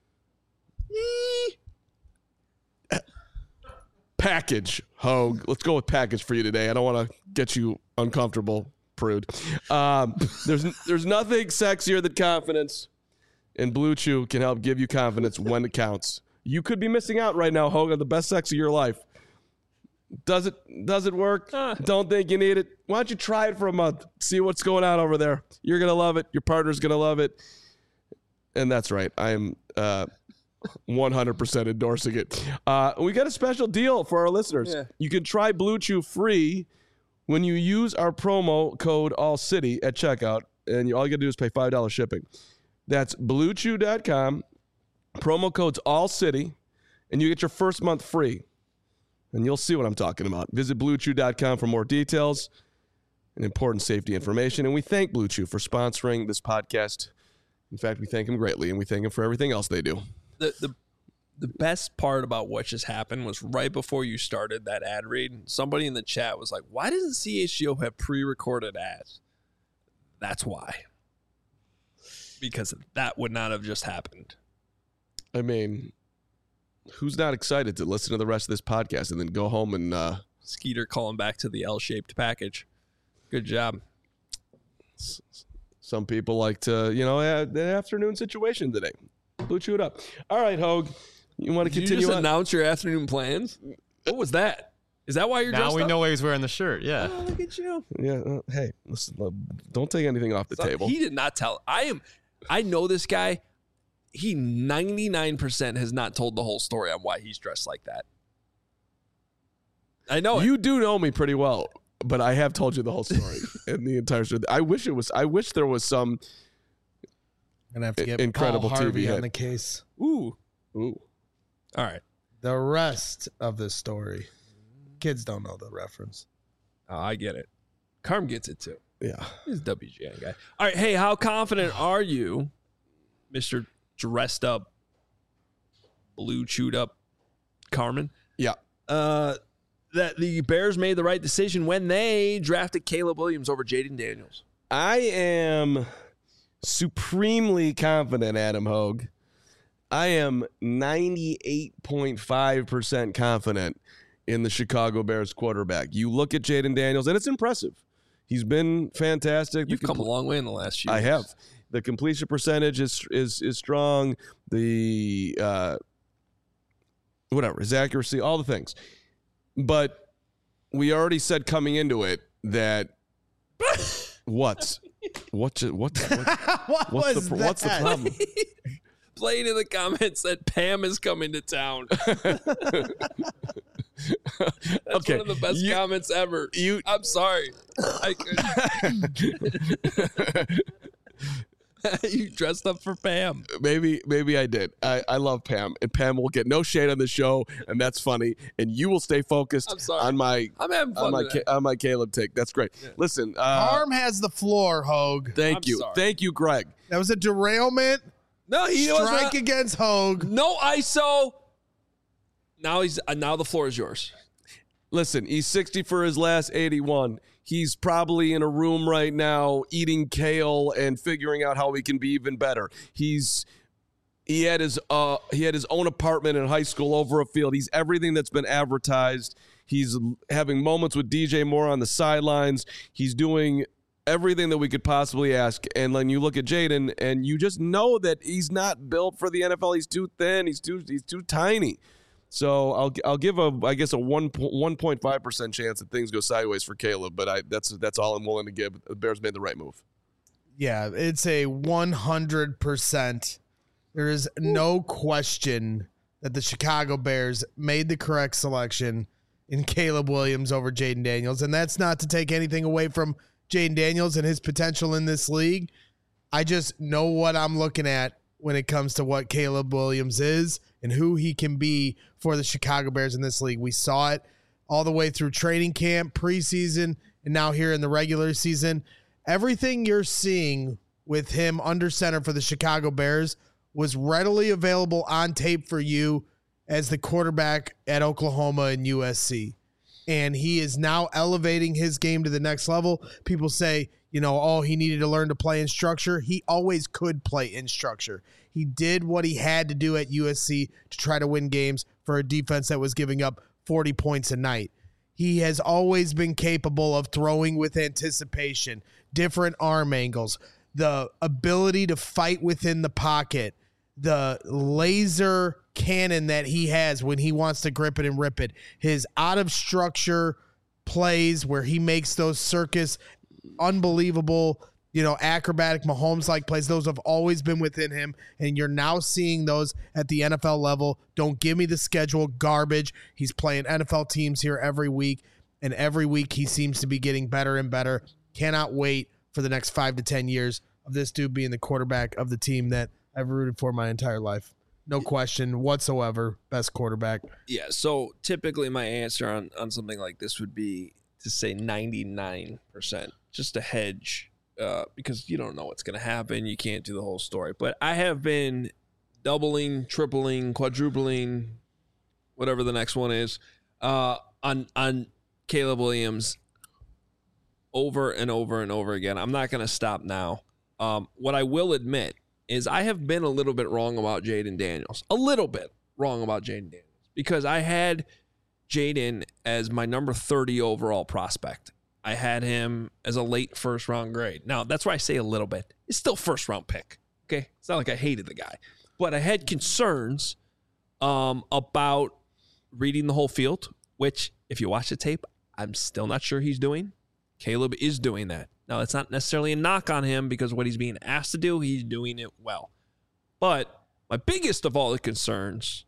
package. Hogue, let's go with package for you today. I don't want to get you uncomfortable, prude. Um, there's there's nothing sexier than confidence, and Blue Chew can help give you confidence when it counts. You could be missing out right now, Hogue, on the best sex of your life. Does it does it work? Uh, Don't think you need it. Why don't you try it for a month? See what's going on over there. You're going to love it. Your partner's going to love it. And that's right. I am uh, one hundred percent endorsing it. Uh, we got a special deal for our listeners. Yeah. You can try Blue Chew free when you use our promo code ALLCITY at checkout. And you, all you got to do is pay five dollars shipping. That's blue chew dot com. Promo code's ALLCITY. And you get your first month free. And you'll see what I'm talking about. Visit blue chew dot com for more details and important safety information. And we thank Blue Chew for sponsoring this podcast. In fact, we thank them greatly, and we thank them for everything else they do. The the the best part about what just happened was right before you started that ad read, somebody in the chat was like, why doesn't C H G O have pre-recorded ads? That's why. Because that would not have just happened. I mean, who's not excited to listen to the rest of this podcast and then go home and uh, Skeeter calling back to the L-shaped package. Good job. Some people like to, you know, uh, the afternoon situation today. Blue Chew it up. All right, Hogue. You want to Did continue you just on? announce your afternoon plans? What was that? Is that why you're Now dressed we up? know why he's wearing the shirt. Yeah. Oh, look at you. Yeah. Uh, hey, listen. Uh, don't take anything off the So table. He did not tell. I am. I know this guy. He ninety-nine percent has not told the whole story on why he's dressed like that. I know it. You do know me pretty well, but I have told you the whole story and the entire story. I wish it was. I wish there was some. Gonna have to get Incredible Paul Harvey T V on hit. the case. Ooh. Ooh. All right. The rest of the story, kids don't know the reference. Oh, I get it. Carm gets it too. Yeah. He's a W G N guy. All right. Hey, how confident are you, Mister Dressed Up, Blue Chewed Up Carmen? Yeah. Uh, that the Bears made the right decision when they drafted Caleb Williams over Jaden Daniels. I am supremely confident, Adam Hogue. I am ninety-eight point five percent confident in the Chicago Bears quarterback. You look at Jaden Daniels, and it's impressive. He's been fantastic. You've The come compl- a long way in the last few I years. have. The completion percentage is is is strong. The uh, whatever, his accuracy, all the things. But we already said coming into it that what's what ju- what, what what what's was the that? what's the problem? Playing in the comments that Pam is coming to town. That's Okay, one of the best you- comments ever. You I'm sorry. I could. You dressed up for Pam. maybe maybe I did. I, I love Pam, and Pam will get no shade on the show, and that's funny. And you will stay focused I'm sorry. on my I'm having fun on my today. Ca- on my Caleb take. That's great. Listen, uh, Arm has the floor, Hogue. thank I'm you, sorry. thank you, Greg. That was a derailment. No, he was Strike not. against Hogue. No I S O. Now he's uh, now the floor is yours. Listen, he's sixty for his last eighty-one. He's probably in a room right now eating kale and figuring out how he can be even better. He's he had his uh he had his own apartment in high school over a field. He's everything that's been advertised. He's having moments with D J Moore on the sidelines. He's doing everything that we could possibly ask. And when you look at Jaden, and you just know that he's not built for the N F L. He's too thin. He's too he's too tiny. So I'll I'll give a I guess a one one point five percent chance that things go sideways for Caleb, but I that's that's all I'm willing to give. The Bears made the right move. Yeah, it's a one hundred percent. There is no question that the Chicago Bears made the correct selection in Caleb Williams over Jaden Daniels. And that's not to take anything away from Jaden Daniels and his potential in this league. I just know what I'm looking at when it comes to what Caleb Williams is and who he can be for the Chicago Bears in this league. We saw it all the way through training camp, preseason, and now here in the regular season. Everything you're seeing with him under center for the Chicago Bears was readily available on tape for you as the quarterback at Oklahoma and U S C. And he is now elevating his game to the next level. People say, you know, oh, he needed to learn to play in structure. He always could play in structure. He did what he had to do at U S C to try to win games for a defense that was giving up forty points a night. He has always been capable of throwing with anticipation, different arm angles, the ability to fight within the pocket, the laser cannon that he has when he wants to grip it and rip it, his out of structure plays where he makes those circus unbelievable, you know, acrobatic Mahomes-like plays. Those have always been within him, and you're now seeing those at the N F L level. Don't give me the schedule garbage. He's playing N F L teams here every week, and every week he seems to be getting better and better. Cannot wait for the next five to ten years of this dude being the quarterback of the team that I've rooted for my entire life. No question whatsoever. Best quarterback. Yeah, so typically my answer on, on something like this would be to say ninety-nine percent, just to hedge, uh, because you don't know what's going to happen. You can't do the whole story. But I have been doubling, tripling, quadrupling, whatever the next one is, uh, on on Caleb Williams over and over and over again. I'm not going to stop now. Um, what I will admit is I have been a little bit wrong about Jaden Daniels. A little bit wrong about Jaden Daniels. Because I had Jaden as my number thirty overall prospect. I had him as a late first round grade. Now, that's why I say a little bit. It's still first round pick. Okay. It's not like I hated the guy, but I had concerns um, about reading the whole field, which if you watch the tape, I'm still not sure he's doing. Caleb is doing that. Now, that's not necessarily a knock on him because what he's being asked to do, he's doing it well. But my biggest of all the concerns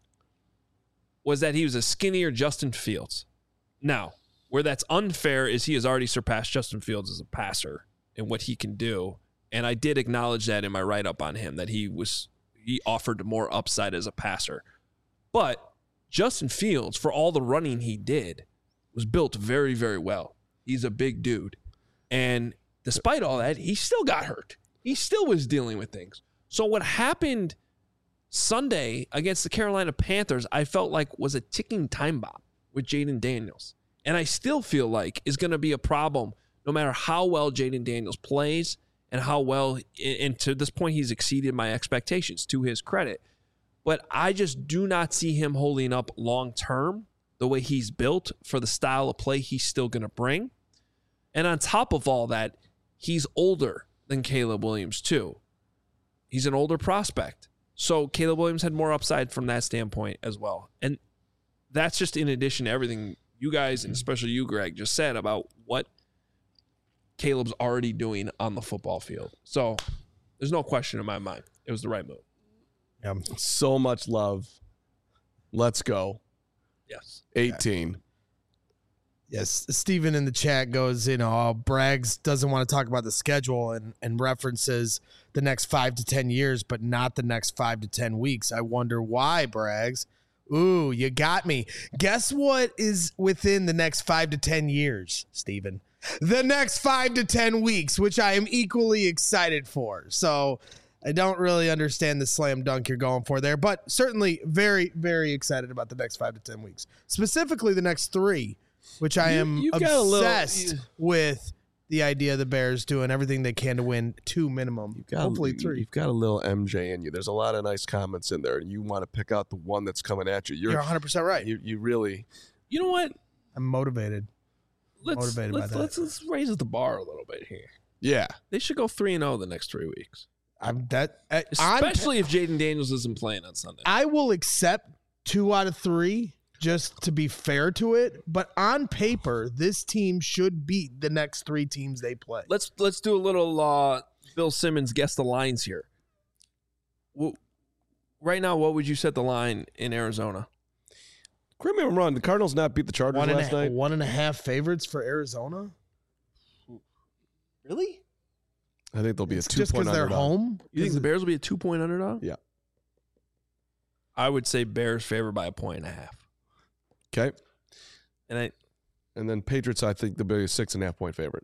was that he was a skinnier Justin Fields. Now, where that's unfair is he has already surpassed Justin Fields as a passer and what he can do. And I did acknowledge that in my write-up on him, that he was he offered more upside as a passer. But Justin Fields, for all the running he did, was built very, very well. He's a big dude. And despite all that, he still got hurt. He still was dealing with things. So what happened Sunday against the Carolina Panthers, I felt like was a ticking time bomb with Jayden Daniels. And I still feel like is going to be a problem no matter how well Jayden Daniels plays and how well, and to this point, he's exceeded my expectations, to his credit. But I just do not see him holding up long-term the way he's built for the style of play he's still going to bring. And on top of all that, he's older than Caleb Williams too. He's an older prospect. So Caleb Williams had more upside from that standpoint as well. And that's just in addition to everything you guys, and especially you, Greg, just said about what Caleb's already doing on the football field. So there's no question in my mind. It was the right move. Yeah. So much love. Let's go. Yes. eighteen. Yes, Steven in the chat goes, you know, oh, Braggs doesn't want to talk about the schedule and, and references the next five to ten years, but not the next five to ten weeks. I wonder why, Braggs. Ooh, you got me. Guess what is within the next five to ten years, Steven? The next five to ten weeks, which I am equally excited for. So I don't really understand the slam dunk you're going for there, but certainly very, very excited about the next five to ten weeks. Specifically the next three, which I You- am you've got a little- obsessed you- with the idea of the Bears doing everything they can to win two minimum, You've got, hopefully you- three. You've got a little M J in you. There's a lot of nice comments in there, and you want to pick out the one that's coming at you. You're, You're one hundred percent right. You, you really. You know what? I'm motivated. Let's Motivated by let's, that. let's let's raise the bar a little bit here. Yeah. They should go three and zero the next three weeks, I'm that uh, on- especially if Jayden Daniels isn't playing on Sunday. I will accept two out of three just to be fair to it, but on paper, this team should beat the next three teams they play. Let's let's do a little uh, Bill Simmons guess the lines here. Well, right now, what would you set the line in Arizona? Correct me if I'm wrong. The Cardinals not beat the Chargers One and, last a, night? one and a half favorites for Arizona. Really? I think they'll be It's a two just point because they're underdog. home. You think Is the it- Bears will be a two point underdog? Yeah. I would say Bears favored by a point and a half. Okay. And I, And then Patriots, I think they'll be a six and a half point favorite.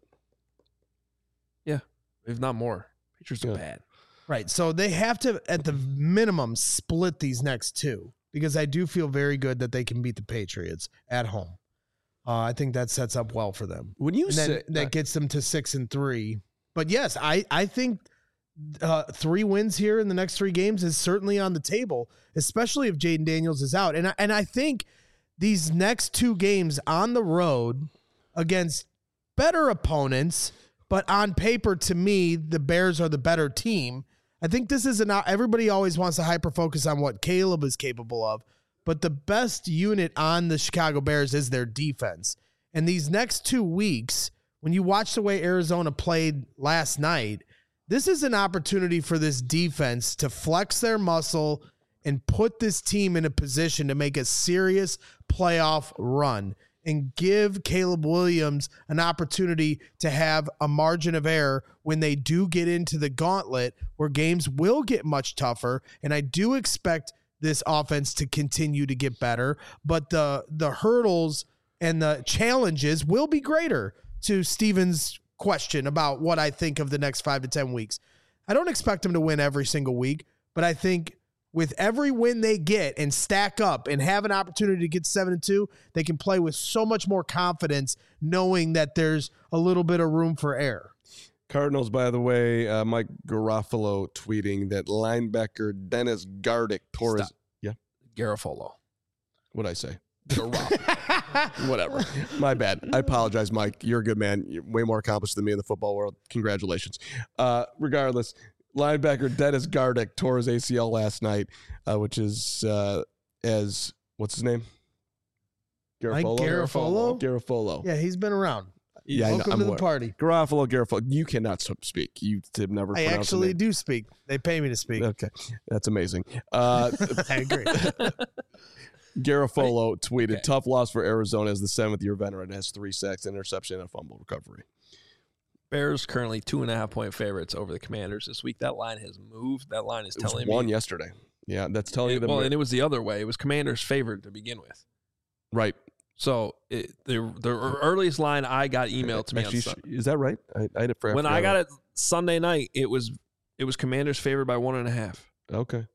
if not more, Patriots are Yeah. bad. Right. So they have to, at the minimum, split these next two because I do feel very good that they can beat the Patriots at home. Uh, I think that sets up well for them. When you And then say that gets them to six and three. But yes, I, I think uh, three wins here in the next three games is certainly on the table, especially if Jayden Daniels is out. And I, and I think these next two games on the road against better opponents, but on paper, to me, the Bears are the better team. I think this is an, everybody always wants to hyper focus on what Caleb is capable of, but the best unit on the Chicago Bears is their defense. And these next two weeks, when you watch the way Arizona played last night, this is an opportunity for this defense to flex their muscle and put this team in a position to make a serious playoff run and give Caleb Williams an opportunity to have a margin of error when they do get into the gauntlet where games will get much tougher. And I do expect this offense to continue to get better, but the the hurdles and the challenges will be greater. To Steven's question about what I think of the next five to ten weeks, I don't expect them to win every single week, but I think with every win they get and stack up and have an opportunity to get seven and two, they can play with so much more confidence, knowing that there's a little bit of room for error. Cardinals, by the way, uh, Mike Garofalo tweeting that linebacker Dennis Gardick tore his. Stop. Yeah. Garofalo. What'd I say? Garoppolo. Whatever. My bad. I apologize, Mike. You're a good man. You're way more accomplished than me in the football world. Congratulations. Uh, regardless, linebacker Dennis Gardeck tore his A C L last night, uh, which is uh, as what's his name? Mike Garafolo? Garafolo. Yeah, he's been around. Yeah, Welcome I'm to the aware. party. Garofalo, Garofalo. You cannot speak. You have never. I pronounced the actually name. do speak. They pay me to speak. Okay, that's amazing. Uh, I agree. Garofalo tweeted, Okay. "Tough loss for Arizona as the seventh-year veteran has three sacks, interception, and a fumble recovery." Bears currently two and a half point favorites over the Commanders this week. That line has moved. That line is It was telling one me. yesterday. Yeah, that's telling you the well, and it was the other way. It was Commanders favored to begin with. right. So it, the the earliest line I got emailed to me Actually, on Sunday. is that right? I, I forgot. When I got it Sunday night, it was it was Commanders favored by one and a half. Okay.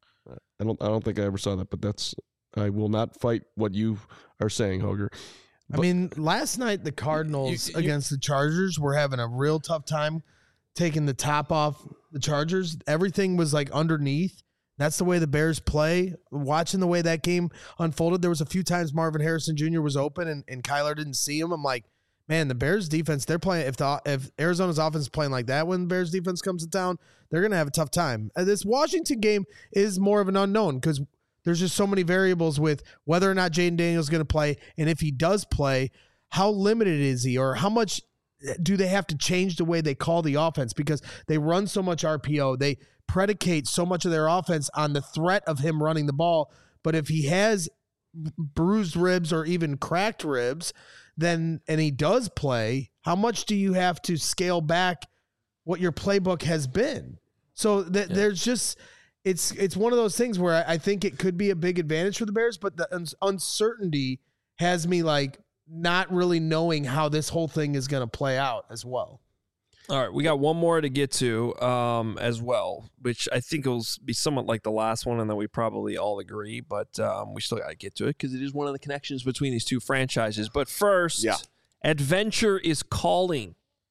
I don't. I don't think I ever saw that, but that's. I will not fight what you are saying, Hoger. I mean, last night the Cardinals You- you- against the Chargers were having a real tough time taking the top off the Chargers. Everything was like underneath. That's the way the Bears play. Watching the way that game unfolded, there was a few times Marvin Harrison Junior was open and, and Kyler didn't see him. I'm like, man, the Bears defense, they're playing. If the if Arizona's offense is playing like that when the Bears defense comes to town, they're going to have a tough time. Uh, This Washington game is more of an unknown because there's just so many variables with whether or not Jaden Daniels is going to play. And if he does play, how limited is he, or how much do they have to change the way they call the offense, because they run so much R P O. They predicate so much of their offense on the threat of him running the ball. But if he has bruised ribs or even cracked ribs, then, and he does play, how much do you have to scale back what your playbook has been? So th- Yeah. there's just, it's, it's one of those things where I, I think it could be a big advantage for the Bears, but the un- uncertainty has me like not really knowing how this whole thing is going to play out as well. All right, we got one more to get to um, as well, which I think will be somewhat like the last one, and then we probably all agree, but um, we still got to get to it because it is one of the connections between these two franchises. But first, Yeah. Adventure is calling,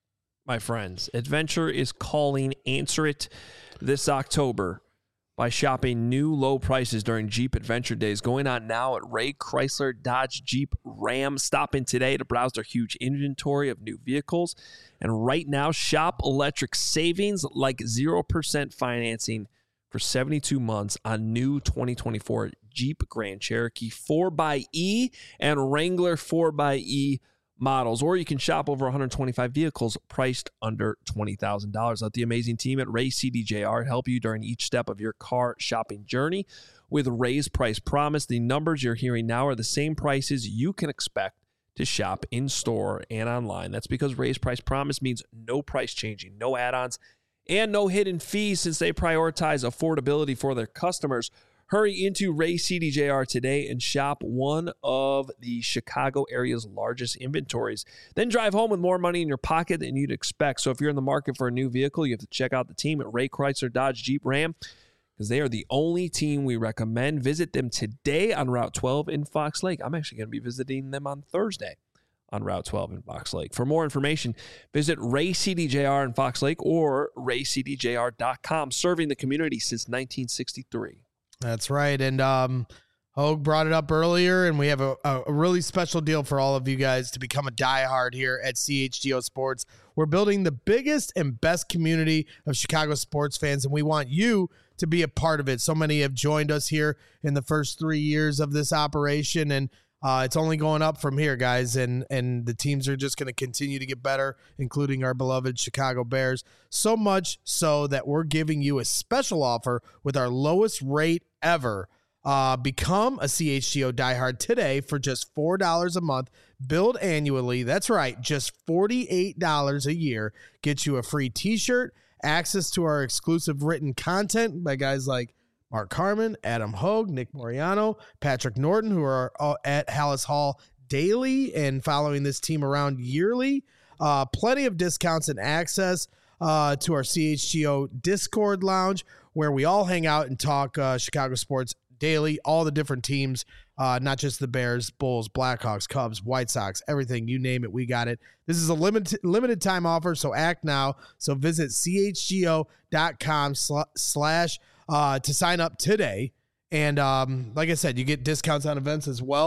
my friends. Adventure is calling. Answer it this October by shopping new low prices during Jeep Adventure Days going on now at Ray Chrysler Dodge Jeep Ram. Stop in today to browse their huge inventory of new vehicles. And right now, shop electric savings like zero percent financing for seventy-two months on new twenty twenty-four Jeep Grand Cherokee four by E and Wrangler four by E models. Or you can shop over one hundred twenty-five vehicles priced under twenty thousand dollars. Let the amazing team at Ray C D J R help you during each step of your car shopping journey. With Ray's Price Promise, the numbers you're hearing now are the same prices you can expect to shop in store and online. That's because Ray's Price Promise means no price changing, no add-ons, and no hidden fees since they prioritize affordability for their customers. Hurry into Ray C D J R today and shop one of the Chicago area's largest inventories. Then drive home with more money in your pocket than you'd expect. So if you're in the market for a new vehicle, you have to check out the team at Ray Chrysler Dodge Jeep Ram because they are the only team we recommend. Visit them today on Route twelve in Fox Lake. I'm actually going to be visiting them on Thursday on Route twelve in Fox Lake. For more information, visit Ray C D J R in Fox Lake or ray c d j r dot com, serving the community since nineteen sixty-three. That's right. And um, Hogue brought it up earlier, and we have a, a really special deal for all of you guys to become a diehard here at C H G O Sports. We're building the biggest and best community of Chicago sports fans, and we want you to be a part of it. So many have joined us here in the first three years of this operation, and uh, it's only going up from here, guys. And and the teams are just going to continue to get better, including our beloved Chicago Bears. So much so that we're giving you a special offer with our lowest rate ever. Uh, become a C H G O diehard today for just four dollars a month, billed annually. That's right, just forty-eight dollars a year. Gets you a free t-shirt, access to our exclusive written content by guys like Mark Carman, Adam Hogue, Nick Moriano, Patrick Norton, who are uh, at Hallis Hall daily and following this team around yearly. Uh, plenty of discounts and access uh, to our C H G O Discord lounge, where we all hang out and talk uh, Chicago sports daily, all the different teams, uh, not just the Bears, Bulls, Blackhawks, Cubs, White Sox, everything, you name it, we got it. This is a limited limited time offer, so act now. So visit c h g o dot com slash uh, to sign up today. And um, like I said, you get discounts on events as well.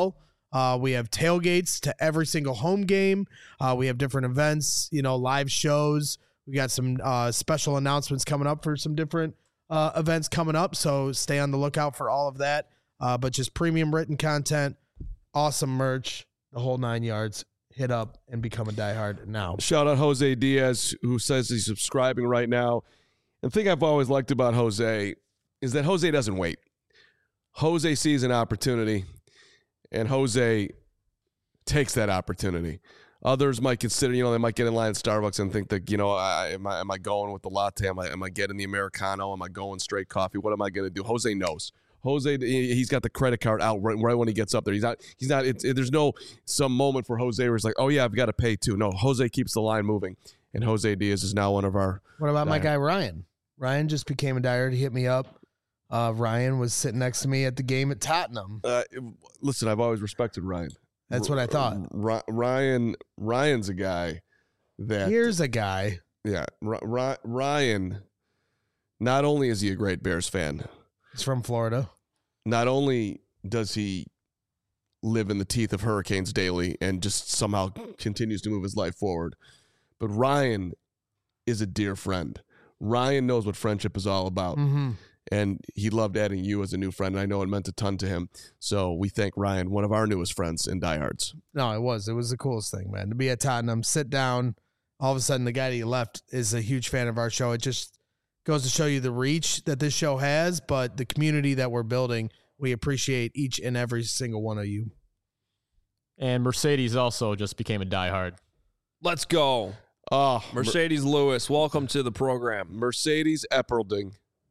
Uh, we have tailgates to every single home game. Uh, we have different events, you know, live shows. We got some uh, special announcements coming up for some different uh, events coming up. So stay on the lookout for all of that. Uh, but just premium written content, awesome merch, the whole nine yards. Hit up and become a diehard now. Shout out Jose Diaz, who says he's subscribing right now. The thing I've always liked about Jose is that Jose doesn't wait. Jose sees an opportunity, and Jose takes that opportunity. Others might consider, you know, they might get in line at Starbucks and think that, you know, I, am, I, am I going with the latte? Am I, am I getting the Americano? Am I going straight coffee? What am I going to do? Jose knows. Jose, he's got the credit card out right, right when he gets up there. He's not, he's not, it's, it, there's no some moment for Jose where he's like, oh, yeah, I've got to pay too. No, Jose keeps the line moving, and Jose Diaz is now one of our. What about diehard. my guy, Ryan? Ryan just became a diehard. He hit me up. Uh, Ryan was sitting next to me at the game at Tottenham. Uh, listen, I've always respected Ryan. That's what I thought. R- Ryan, Ryan's a guy that. Here's a guy. Yeah, R- R- Ryan, not only is he a great Bears fan. He's from Florida. Not only does he live in the teeth of hurricanes daily and just somehow continues to move his life forward, but Ryan is a dear friend. Ryan knows what friendship is all about. Mm-hmm. And he loved adding you as a new friend. And I know it meant a ton to him. So we thank Ryan, one of our newest friends in Diehards. No, it was. It was the coolest thing, man. To be at Tottenham, sit down. All of a sudden, the guy that you left is a huge fan of our show. It just goes to show you the reach that this show has, but the community that we're building. We appreciate each and every single one of you. And Mercedes also just became a diehard. Let's go. Oh, Mercedes Mer- Lewis, welcome to the program. Mercedes Eppelding.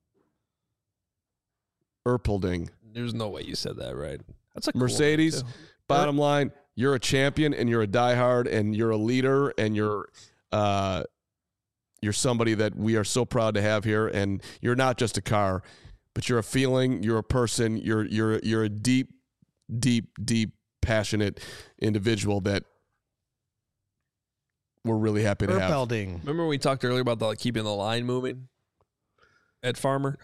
Erpelding. There's no way you said that right. That's a cool Mercedes. name, too. Bottom line, you're a champion and you're a diehard and you're a leader and you're uh, you're somebody that we are so proud to have here. And you're not just a car, but you're a feeling. You're a person. You're you're you're a deep, deep, deep, passionate individual that we're really happy to have. Erpelding. Remember when we talked earlier about the, like, keeping the line moving at Farmer?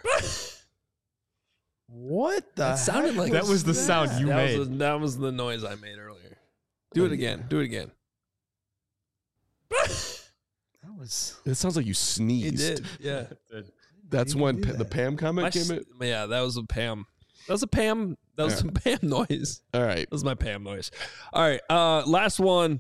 What the That sounded heck like That was the that? sound you that made. Was the, that was the noise I made earlier. Do it again. Do it again. That was. It sounds like you He sneezed. did. Yeah. That's You when do pa- that. the Pam My comment s- came in. yeah, that was a Pam. That was a Pam. That was Yeah. some Pam noise. All right. That was my Pam noise. All right. Uh, last one.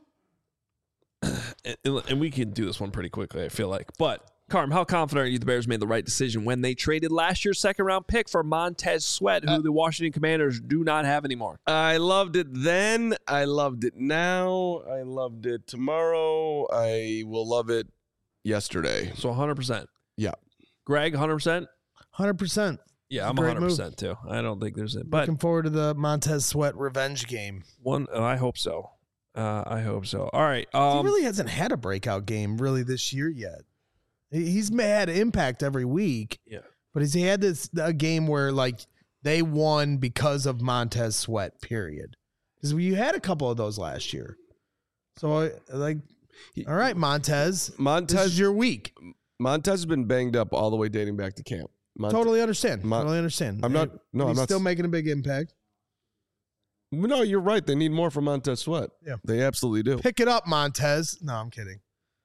And, and we can do this one pretty quickly, I feel like. But, Carm, how confident are you the Bears made the right decision when they traded last year's second round pick for Montez Sweat, who Uh, the Washington Commanders do not have anymore? I loved it then. I loved it now. I loved it tomorrow. I will love it yesterday. So one hundred percent. Yeah. Greg, one hundred percent? one hundred percent. Yeah, I'm Great one hundred percent too. I don't think there's it. But Looking forward to the Montez Sweat revenge game. one, oh, I hope so. Uh, I hope so. All right. he Um, really hasn't had a breakout game really this year yet. He- He's had impact every week. Yeah. But he's had this a game where like they won because of Montez Sweat, period. Because you had a couple of those last year. So like, all right, Montez, this Montez is your week. Montez has been banged up all the way dating back to camp. Mont- Totally understand. Mon- totally understand. I'm not. No, he's I'm not. still making a big impact. No, you're right. They need more from Montez Sweat. Yeah. They absolutely do. Pick it up, Montez. No, I'm kidding.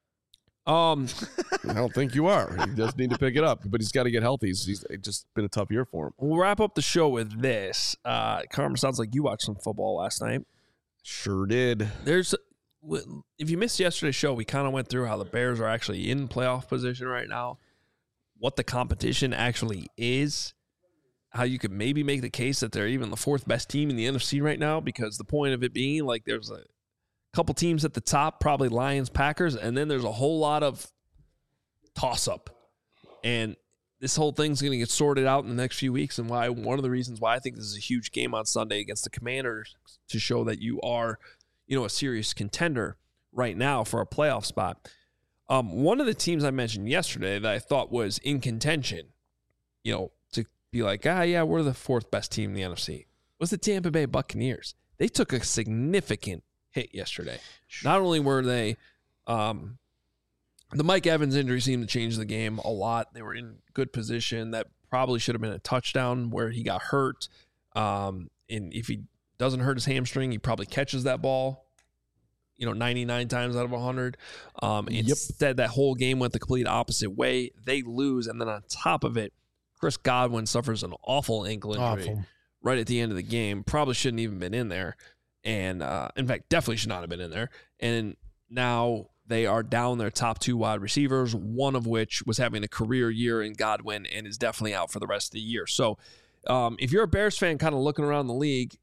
um, I don't think you are. He does need to pick it up, but he's got to get healthy. He's, he's it's just been a tough year for him. we'll wrap up the show with this. Uh, Carm, sounds like you watched some football last night. Sure did. There's, if you missed yesterday's show, we kind of went through how the Bears are actually in playoff position right now, what the competition actually is, how you could maybe make the case that they're even the fourth best team in the N F C right now, because the point of it being like there's a couple teams at the top, probably Lions, Packers, and then there's a whole lot of toss-up. And this whole thing's going to get sorted out in the next few weeks, and why one of the reasons why I think this is a huge game on Sunday against the Commanders to show that you are, you know, a serious contender right now for a playoff spot. Um, one of the teams I mentioned yesterday that I thought was in contention, you know, to be like, ah, yeah, we're the fourth best team in the N F C, was the Tampa Bay Buccaneers. They took a significant hit yesterday. Not only were they, um, the Mike Evans injury seemed to change the game a lot. They were in good position. That probably should have been a touchdown where he got hurt. Um, and if he doesn't hurt his hamstring. He probably catches that ball, you know, ninety-nine times out of one hundred. Um, Yep. Instead, that whole game went the complete opposite way. They lose, and then on top of it, Chris Godwin suffers an awful ankle injury Awful. right at the end of the game. Probably shouldn't even been in there. And, uh, in fact, definitely should not have been in there. And now they are down their top two wide receivers, one of which was having a career year in Godwin and is definitely out for the rest of the year. So um, if you're a Bears fan kind of looking around the league,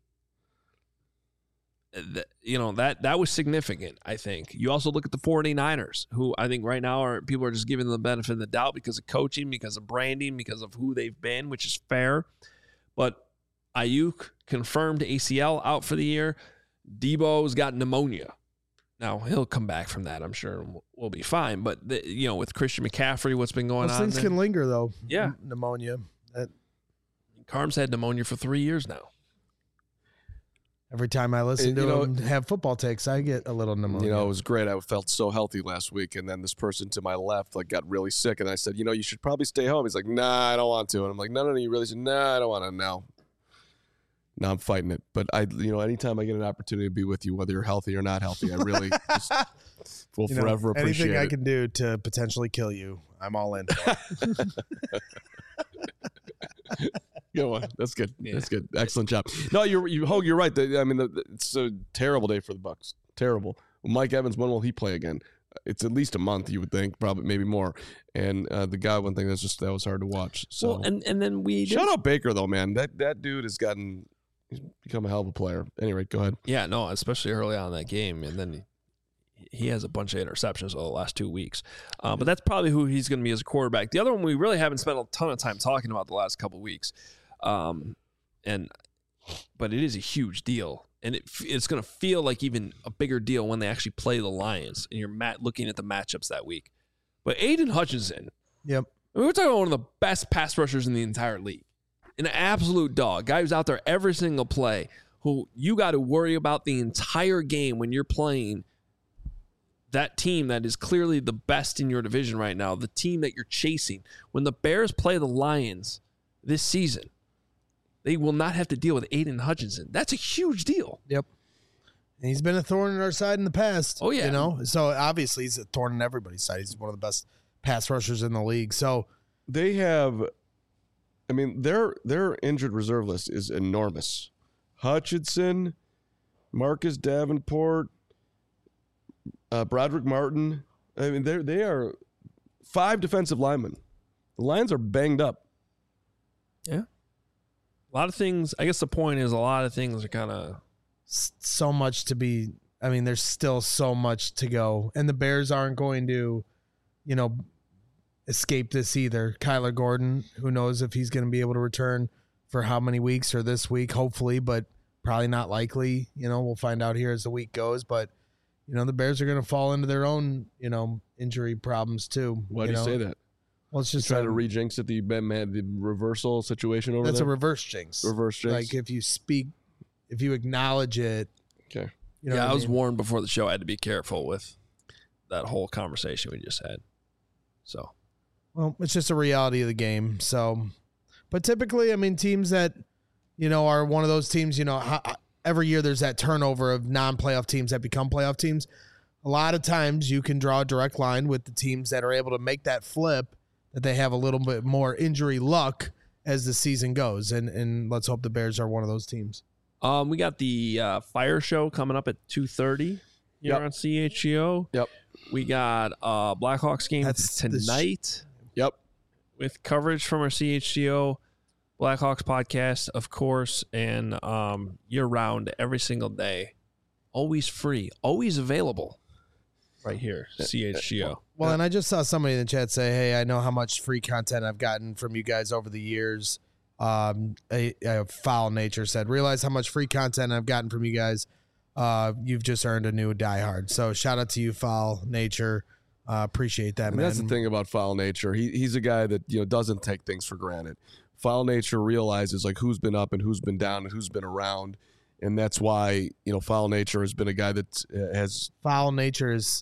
th- you know, that that was significant, I think. You also look at the 49ers, who I think right now are people are just giving them the benefit of the doubt because of coaching, because of branding, because of who they've been, which is fair. But Ayuk confirmed A C L out for the year. Debo's got pneumonia. Now, he'll come back from that, I'm sure, and we'll, we'll be fine. But, the, you know, with Christian McCaffrey, what's been going Those on things there? can linger, though. Yeah. N- Pneumonia. That, Carm's had pneumonia for three years now. every time I listen And, to you know- him have football takes, I get a little pneumonia. You know, it was great. I felt so healthy last week, and then this person to my left like got really sick, and I said, you know, you should probably stay home. He's like, nah, I don't want to, and I'm like, no, no, no, you really should. Nah, I don't want to. No. Now I'm fighting it, but I, you know, anytime I get an opportunity to be with you, whether you're healthy or not healthy, I really just will You know, forever appreciate anything I it. can do to potentially kill you, I'm all in for. Good one. That's good. That's good. Excellent job. No, you're you Hogue, you're right. The- I mean, the, the- it's a terrible day for the Bucks. Terrible. Mike Evans, when will he play again? It's at least a month, you would think, probably maybe more. And uh, the Godwin thing, that's just that was hard to watch. So Well, and, and then we shout out Baker though, man. That that dude has gotten he's become a hell of a player. Anyway, go ahead. Yeah, no, especially early on in that game. And then he, he has a bunch of interceptions over the last two weeks. Uh, but that's probably who he's going to be as a quarterback. The other one we really haven't spent a ton of time talking about the last couple of weeks. Um, and but it is a huge deal. And it, it's going to feel like even a bigger deal when they actually play the Lions and you're mat- looking at the matchups that week. But Aiden Hutchinson, Yep. I mean, we're talking about one of the best pass rushers in the entire league. An absolute dog. Guy who's out there every single play, who you got to worry about the entire game when you're playing that team that is clearly the best in your division right now, the team that you're chasing. When the Bears play the Lions this season, they will not have to deal with Aiden Hutchinson. That's a huge deal. Yep. And he's been a thorn in our side in the past. Oh, yeah. You know, so obviously he's a thorn in everybody's side. He's one of the best pass rushers in the league. So They have, I mean, their their injured reserve list is enormous. Hutchinson, Marcus Davenport, uh, Broderick Martin. I mean, they they are five defensive linemen. The Lions are banged up. Yeah. A lot of things, I guess the point is a lot of things are kind of. s- so much to be, I mean, there's still so much to go. And the Bears aren't going to, you know, escape this either. Kyler Gordon, who knows if he's going to be able to return for how many weeks or this week, hopefully, but probably not likely. You know, we'll find out here as the week goes. But, you know, the Bears are going to fall into their own, you know, injury problems too. Why do you know? say that? Well, it's just Trying to a, re-jinx it, the, the reversal situation over that's there? a reverse jinx. Reverse jinx? Like if you speak, if you acknowledge it, Okay. you know Yeah, what I was mean? warned before the show I had to be careful with that whole conversation we just had. So, Well, it's just a reality of the game. So, but typically, I mean, teams that, you know, are one of those teams, you know, ho- every year there's that turnover of non-playoff teams that become playoff teams. A lot of times you can draw a direct line with the teams that are able to make that flip, that they have a little bit more injury luck as the season goes. And, and let's hope the Bears are one of those teams. um, we got the uh, Fire Show coming up at two thirty here Yep. on C H G O. Yep. We got uh, Blackhawks game That's the sh- tonight Yep. with coverage from our C H G O Blackhawks podcast, of course, and um, year-round, every single day. Always free, always available right here, C H G O. Well, and I just saw somebody in the chat say, "Hey, I know how much free content I've gotten from you guys over the years." Um, a, a foul nature said, "Realize how much free content I've gotten from you guys. Uh, you've just earned a new diehard." So shout out to you, foul nature. Uh, appreciate that, And man. that's the thing about Foul Nature. He he's a guy that, you know, doesn't take things for granted. Foul Nature realizes like who's been up and who's been down and who's been around, and that's why, you know, Foul Nature has been a guy that uh, has Foul nature is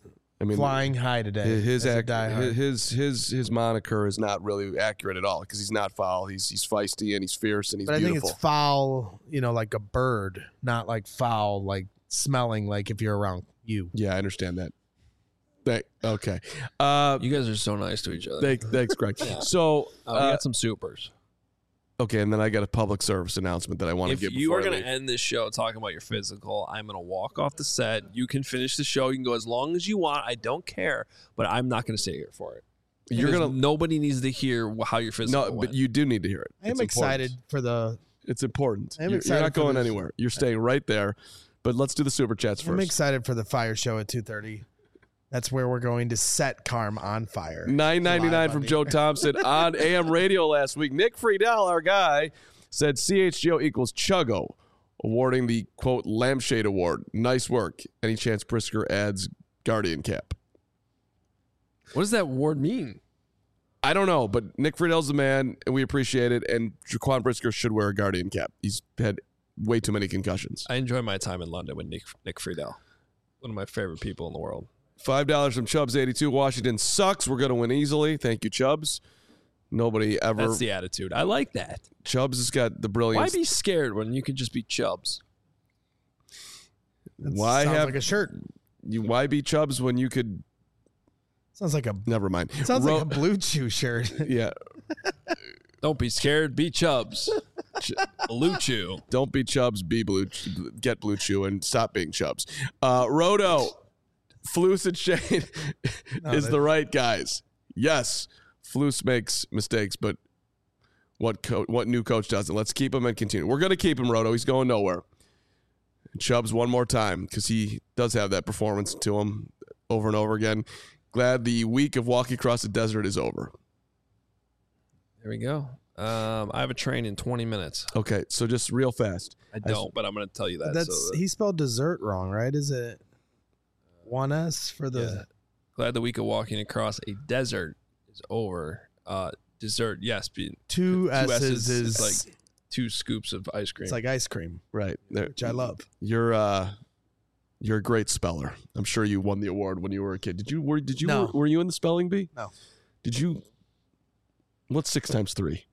I mean, flying high today. his as a ac- diehard. his his his moniker is not really accurate at all because he's not foul. He's he's feisty and he's fierce and he's But I beautiful. think it's foul, you know, like a bird, not like foul, like smelling like if you're around you. Yeah, I understand that. Thank, okay. Uh, You guys are so nice to each other. thank, thanks, Greg. So, Oh, we uh, got some supers. okay, and then I got a public service announcement that I want to If give. you before are I going leave. to end this show talking about your physical, I'm going to walk off the set. You can finish the show. You can go as long as you want. I don't care, but I'm not going to stay here for it. You're Because gonna nobody needs to hear wh- how your physical no, went. but you do need to hear it. I am It's excited important. for the. It's important. I am You're, excited you're not for going this. anywhere. You're staying right there. But let's do the super chats I'm first. excited for the fire show at two thirty. That's where we're going to set Carm on fire. nine ninety-nine Live from on Joe the- Thompson on A M radio last week. Nick Friedel, our guy, said C H G O equals Chuggo, awarding the, quote, Lampshade Award. Nice work. Any chance Brisker adds Guardian cap? what does that word mean? I don't know, but Nick Friedel's the man, and we appreciate it, and Jaquan Brisker should wear a Guardian cap. He's had way too many concussions. I enjoy my time in London with Nick Nick Friedel, one of my favorite people in the world. five dollars from Chubbs eighty-two. Washington sucks. We're going to win easily. Thank you, Chubbs. Nobody ever. That's the attitude. I like that. Chubbs has got the Why brilliance. be scared when you can just be Chubbs? That Why sounds have like a shirt? you? Why be Chubbs when you could? Sounds like a Never mind. sounds Ro- like a Blue Chew shirt. yeah. Don't be scared. Be Chubbs. Blue Chew. Don't be Chubbs. Be blue. Get Blue Chew and stop being Chubbs. Uh, Roto, Flus and Shane No, is that- the right guys. Yes, Flus makes mistakes, but what co- what new coach doesn't? Let's keep him and continue. We're gonna keep him, Roto. He's going nowhere. Chubbs one more time because he does have that performance to him over and over again. Glad the week of walking across the desert is over. There we go. Um, I have a train in twenty minutes. Okay, so just real fast. I don't, but I'm going to tell you that. That's so that- he spelled dessert wrong, right? Is it one S for the? Yeah. Glad the week of walking across a desert is over. Uh, dessert, yes. Be, Two, two S's, S's is is like two scoops of ice cream. it's like ice cream, Right. There- which I love. You're uh you're a great speller. I'm sure you won the award when you were a kid. Did you were did you No. were, were you in the spelling bee? No. Did you what's six times three?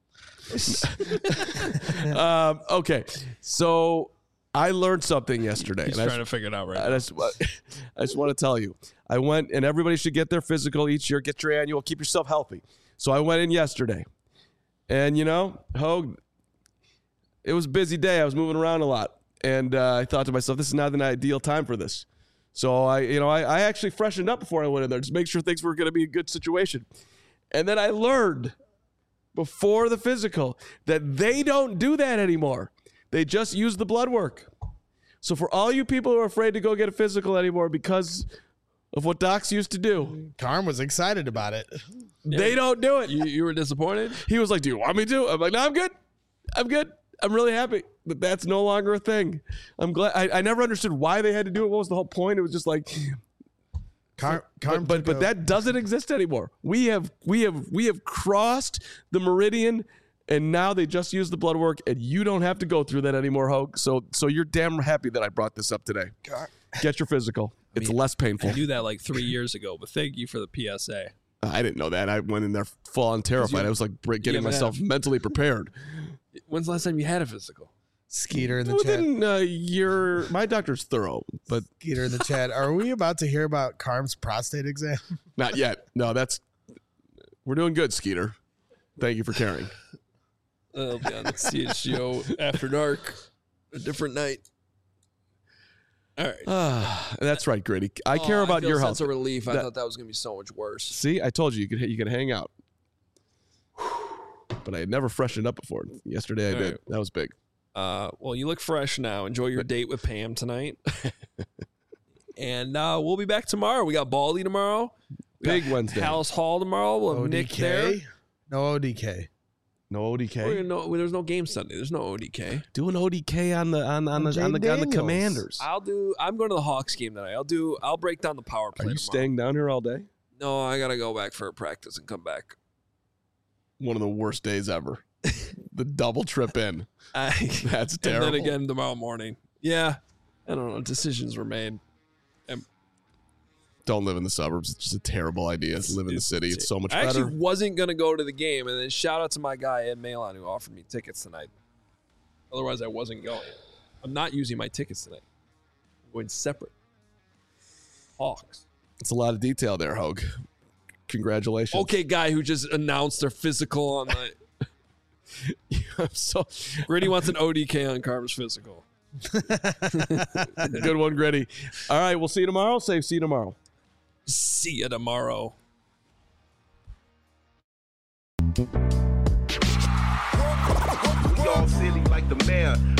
um, okay. So I learned something yesterday. He's and I trying to figure it out right I now. just, I just want to tell you, I went, and everybody should get their physical each year. Get your annual. Keep yourself healthy. So I went in yesterday, and you know, Hogue, it was a busy day. I was moving around a lot, and uh, I thought to myself, this is not an ideal time for this. So I, you know, I, I actually freshened up before I went in there, just make sure things were going to be a good situation. And then I learned before the physical that they don't do that anymore. They just use the blood work. So for all you people who are afraid to go get a physical anymore because of what docs used to do, Carm was excited about it. they don't do it. You, you were disappointed? He was like, do you want me to? I'm like, no, I'm good. I'm good. I'm really happy that that's no longer a thing. I'm glad. I, I never understood why they had to do it. What was the whole point? It was just like, Carm, Carm but but, took but a- that doesn't exist anymore. We have we have we have crossed the meridian, and now they just use the blood work, and you don't have to go through that anymore, Hogue. So so you're damn happy that I brought this up today. Get your physical. It's mean, less painful. I knew that like three years ago, but thank you for the P S A. I didn't know that. I went in there full on terrified. you- I was like break- getting haven't myself had mentally prepared. When's the last time you had a physical? Skeeter in the chat. Within a year, my doctor's thorough, but Skeeter in the chat. Are we about to hear about Carm's prostate exam? not yet. No, that's we're doing good, Skeeter. Thank you for caring. It'll be on C H G O after dark, a different night. All right. Ah, that's right, Grady. I Oh, care about feel your a health. sense of relief. I That- thought that was gonna be so much worse. See, I told you you could you could hang out, but I had never freshened up before. Yesterday I All did. right. That was big. Uh, well, you look fresh now. Enjoy your date with Pam tonight. And uh, we'll be back tomorrow. We got Baldy tomorrow. We Big got Wednesday. House Hall tomorrow. We'll have Nick there. O D K? No O D K. No O D We're K. gonna know, there's no game Sunday. There's no O D K. Do an O D K on the on on the Jay on the, on the Daniels. Commanders. I'll do. I'm going to the Hawks game tonight. I'll do. I'll break down the power play. Are you tomorrow. staying down here all day? No, I gotta go back for a practice and come back. One of the worst days ever. The double trip in. I, That's and terrible. then again tomorrow morning. Yeah, I don't know. Decisions were made. Don't live in the suburbs. It's just a terrible idea. It's live in the city. It's so much I better. actually wasn't going to go to the game, and then shout out to my guy, Ed Malon, who offered me tickets tonight. Otherwise, I wasn't going. I'm not using my tickets tonight. I'm going separate. Hawks. It's a lot of detail there, Hogue. Congratulations. Okay, guy who just announced their physical on the... I'm so Gritty wants an O D K on Carm's physical. good one, Gritty. All right, we'll see you tomorrow. Say see you tomorrow. See you tomorrow. We all silly like the mayor.